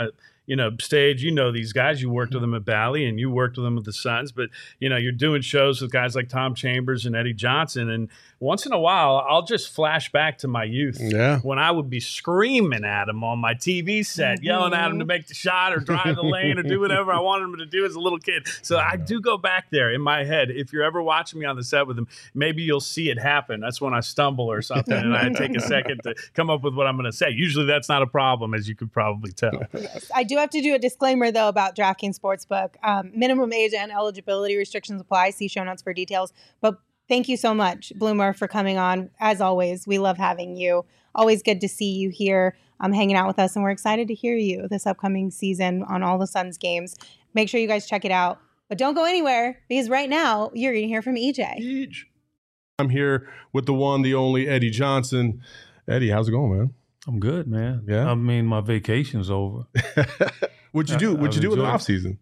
you know, stage. You know these guys. You worked with them at Bally and you worked with them with the Suns. But, you know, you're doing shows with guys like Tom Chambers and Eddie Johnson. And once in a while, I'll just flash back to my youth yeah. when I would be screaming at him on my T V set, mm-hmm. yelling at him to make the shot or drive the lane or do whatever I wanted him to do as a little kid. So I do go back there in my head. If you're ever watching me on the set with him, maybe you'll see it happen. That's when I stumble or something and I take a second to come up with what I'm going to say. Usually that's not a problem, as you could probably tell. Yes. I do have to do a disclaimer, though, about DraftKings Sportsbook. Um, minimum age and eligibility restrictions apply. See show notes for details. But thank you so much, Bloomer, for coming on. As always, we love having you. Always good to see you here um, hanging out with us. And we're excited to hear you this upcoming season on all the Suns games. Make sure you guys check it out. But don't go anywhere, because right now you're going to hear from E J. I'm here with the one, the only Eddie Johnson. Eddie, how's it going, man? I'm good, man. Yeah. I mean, my vacation's over. What'd you do? What'd I've you do in the enjoyed off season?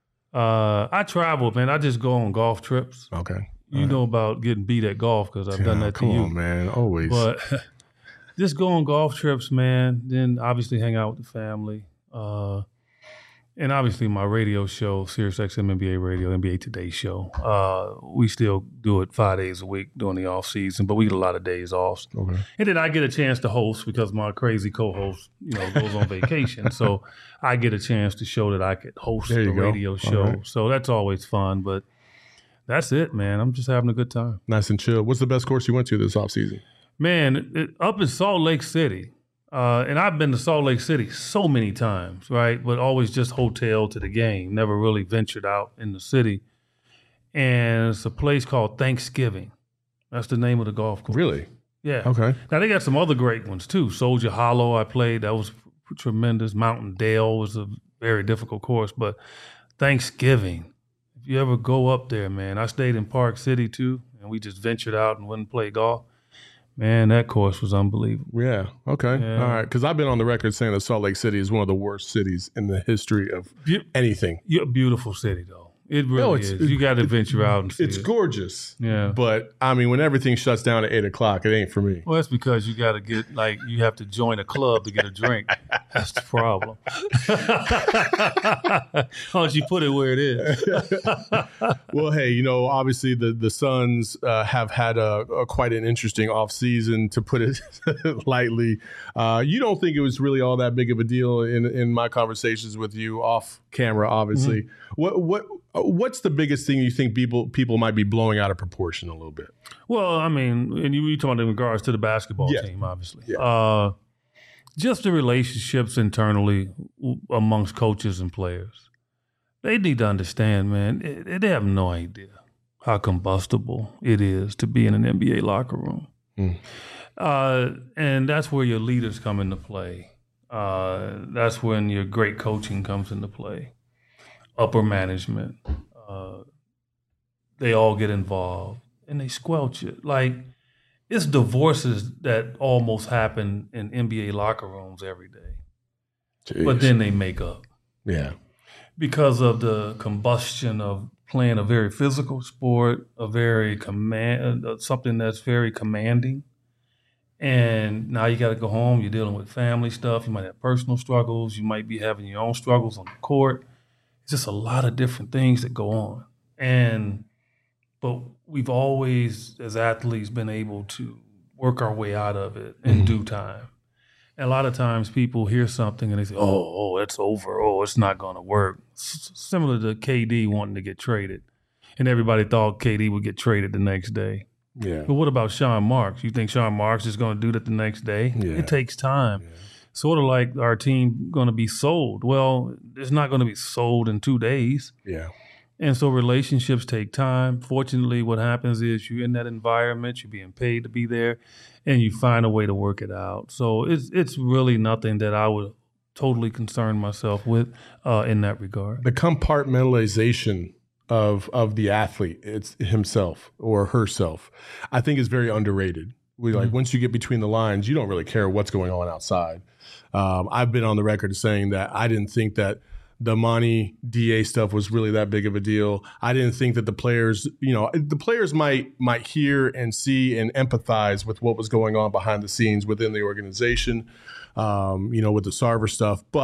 Uh, I travel, man. I just go on golf trips. Okay. You All know right. about getting beat at golf because I've done Yeah, that to come you. on, man. Always. But just go on golf trips, man. Then obviously hang out with the family. Uh, and obviously my radio show, Sirius X M N B A Radio, N B A Today show. Uh, we still do it five days a week during the off season, but we get a lot of days off. Okay. And then I get a chance to host because my crazy co-host, you know, goes on vacation. So I get a chance to show that I could host There the you go. radio All show. right. So that's always fun. But that's it, man. I'm just having a good time. Nice and chill. What's the best course you went to this off season? Man, it, it- up in Salt Lake City, uh, and I've been to Salt Lake City so many times, right? But always just hotel to the game. Never really ventured out in the city. And it's a place called Thanksgiving. That's the name of the golf course. Really? Yeah. Okay. Now, they got some other great ones, too. Soldier Hollow I played. That was tremendous. Mountain Dale was a very difficult course. But Thanksgiving, if you ever go up there, man, I stayed in Park City, too, and we just ventured out and went and played golf. Man, that course was unbelievable. Yeah. Okay. Yeah. All right. Because I've been on the record saying that Salt Lake City is one of the worst cities in the history of Be- anything. You're a beautiful city, though. It really No, it's- is. You got to venture out and see It's it. gorgeous. Yeah. But I mean, when everything shuts down at eight o'clock, it ain't for me. Well, that's because you got to get, like, you have to join a club to get a drink. That's the problem. Why don't you put it where it is? Well, hey, you know, obviously the the Suns uh, have had a, a quite an interesting offseason, to put it lightly. Uh, you don't think it was really all that big of a deal in in my conversations with you off camera, obviously. Mm-hmm. What what what's the biggest thing you think people people might be blowing out of proportion a little bit? Well, I mean, and you you talking in regards to the basketball Yeah. team, obviously. Yeah. Uh, just the relationships internally w- amongst coaches and players. They need to understand, man, they, they have no idea how combustible it is to be in an N B A locker room. Mm. Uh, and that's where your leaders come into play. Uh, that's when your great coaching comes into play. Upper management, uh, they all get involved and they squelch it. Like, it's divorces that almost happen in N B A locker rooms every day. But Jeez. then they make up yeah, because of the combustion of playing a very physical sport, a very command, uh, something that's very commanding. And now you got to go home. You're dealing with family stuff. You might have personal struggles. You might be having your own struggles on the court. It's just a lot of different things that go on. And but we've always, as athletes, been able to work our way out of it in Mhm. due time. And a lot of times people hear something and they say, oh, oh, it's over. Oh, it's not going to work. S- similar to K D wanting to get traded. And everybody thought K D would get traded the next day. yeah, But what about Sean Marks? You think Sean Marks is going to do that the next day? Yeah. It takes time. Yeah. Sort of like our team going to be sold. Well, it's not going to be sold in two days. yeah. And so relationships take time. Fortunately, what happens is you're in that environment, you're being paid to be there, and you find a way to work it out. So it's it's really nothing that I would totally concern myself with uh, in that regard. The compartmentalization of of the athlete, it's himself or herself, I think is very underrated. We like Mm-hmm. once you get between the lines, you don't really care what's going on outside. Um, I've been on the record saying that I didn't think that the Monty D A stuff was really that big of a deal. I didn't think that the players, you know, the players might might hear and see and empathize with what was going on behind the scenes within the organization, um, you know, with the Sarver stuff. But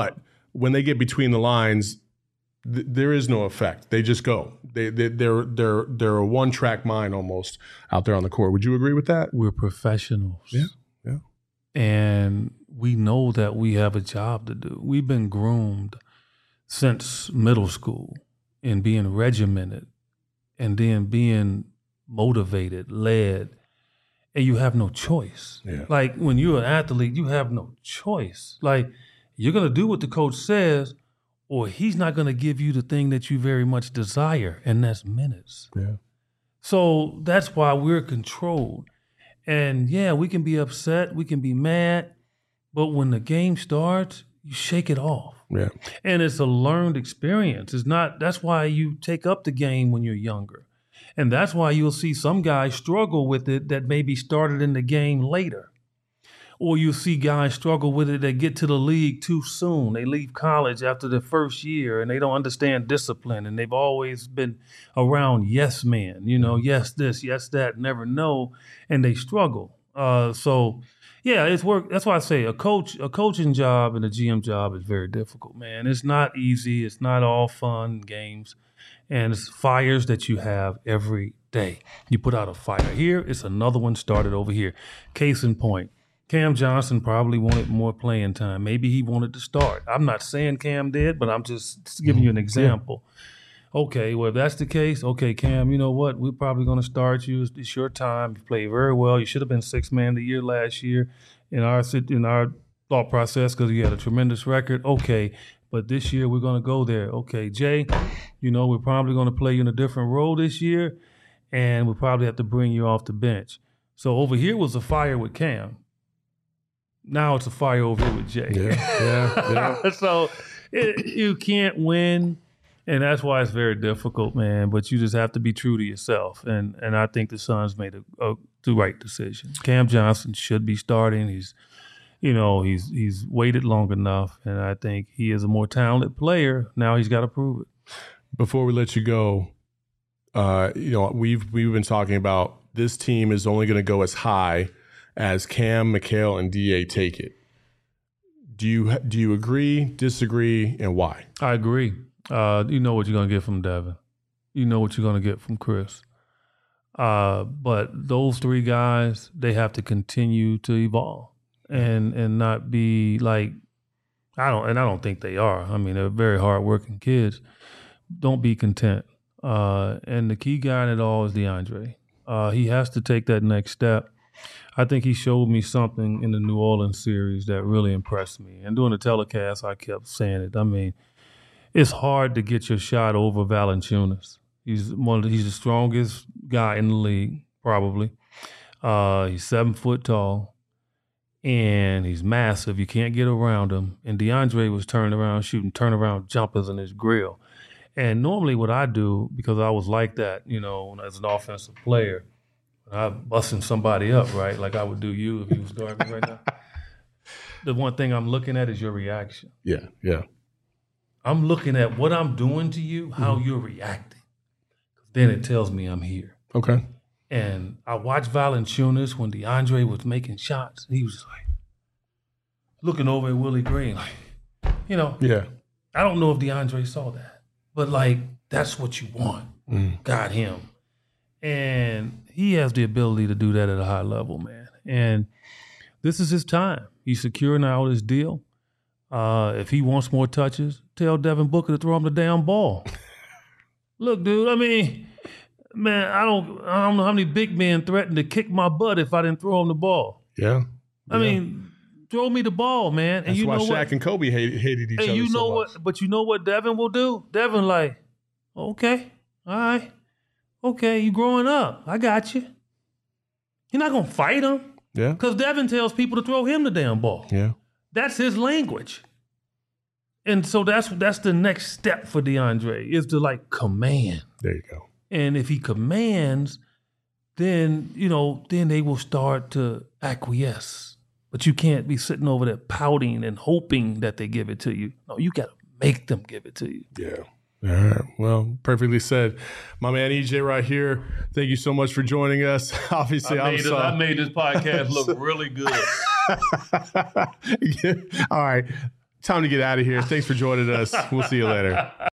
when they get between the lines, th- there is no effect. They just go. They, they they're they're they're a one track mind almost out there on the court. Would you agree with that? We're professionals. Yeah, yeah. And we know that we have a job to do. We've been groomed since middle school in being regimented and then being motivated, led, and you have no choice. Yeah. Like when you're an athlete, you have no choice. Like you're going to do what the coach says, or he's not going to give you the thing that you very much desire, and that's minutes. Yeah. So that's why we're controlled. And yeah, we can be upset, we can be mad, but when the game starts, you shake it off. Yeah. And it's a learned experience. It's not, that's why you take up the game when you're younger. And that's why you'll see some guys struggle with it that maybe started in the game later. Or you'll see guys struggle with it that get to the league too soon. They leave college after their first year and they don't understand discipline. And they've always been around yes men, you know, yes this, yes that, never no, and they struggle. Uh, so, yeah, it's work. That's why I say a coach, a coaching job and a G M job is very difficult, man. It's not easy. It's not all fun and games. And it's fires that you have every day. You put out a fire here, it's another one started over here. Case in point, Cam Johnson probably wanted more playing time. Maybe he wanted to start. I'm not saying Cam did, but I'm just giving you an example. Yeah. Okay, well, if that's the case, okay, Cam, you know what? We're probably going to start you. It's, it's your time. You played very well. You should have been sixth man of the year last year in our in our thought process because you had a tremendous record. Okay, but this year we're going to go there. Okay, Jay, you know, we're probably going to play you in a different role this year, and we'll probably have to bring you off the bench. So over here was a fire with Cam. Now it's a fire over here with Jay. Yeah, yeah, yeah. So it, you can't win, and that's why it's very difficult, man. But you just have to be true to yourself, and and I think the Suns made a, a the right decision. Cam Johnson should be starting. He's, you know, he's he's waited long enough, and I think he is a more talented player. Now he's got to prove it. Before we let you go, uh, you know, we've we've been talking about this team is only going to go as high as Cam, Mikal, and D A take it. Do you do you agree, disagree, and why? I agree. Uh, you know what you're going to get from Devin. You know what you're going to get from Chris. Uh, but those three guys, they have to continue to evolve and and not be like, I don't, and I don't think they are. I mean, they're very hardworking kids. Don't be content. Uh, and the key guy in it all is DeAndre. Uh, he has to take that next step. I think he showed me something in the New Orleans series that really impressed me. And during the telecast, I kept saying it. I mean, it's hard to get your shot over Valanciunas. He's one of the, he's the strongest guy in the league, probably. Uh, he's seven foot tall, and he's massive. You can't get around him. And DeAndre was turning around, shooting turnaround jumpers in his grill. And normally what I do, because I was like that, you know, as an offensive player, I'm busting somebody up, right? Like I would do you if you was guarding me right now. The one thing I'm looking at is your reaction. Yeah, yeah. I'm looking at what I'm doing to you, how mm-hmm. you're reacting. Then it tells me I'm here. Okay. And I watched Valanciunas when DeAndre was making shots. He was just like looking over at Willie Green, like, you know. Yeah. I don't know if DeAndre saw that, but like that's what you want. Mm. Got him. And he has the ability to do that at a high level, man. And this is his time. He's securing out his deal. Uh, if he wants more touches, tell Devin Booker to throw him the damn ball. Look, dude, I mean, man, I don't I don't know how many big men threatened to kick my butt if I didn't throw him the ball. Yeah. I yeah. mean, throw me the ball, man. And That's you why know Shaq what? and Kobe hated, hated each and other you know so what? much. But you know what Devin will do? Devin like, okay, all right. Okay, you growing up. I got you. You're not going to fight him. Yeah. Because Devin tells people to throw him the damn ball. Yeah. That's his language. And so that's that's the next step for DeAndre is to like command. There you go. And if he commands, then, you know, then they will start to acquiesce. But you can't be sitting over there pouting and hoping that they give it to you. No, you got to make them give it to you. Yeah. All right. Well, perfectly said. My man E J right here. Thank you so much for joining us. Obviously, I I'm made, sorry. I made this podcast look really good. Yeah. All right. time to get out of here. Thanks for joining us. We'll see you later.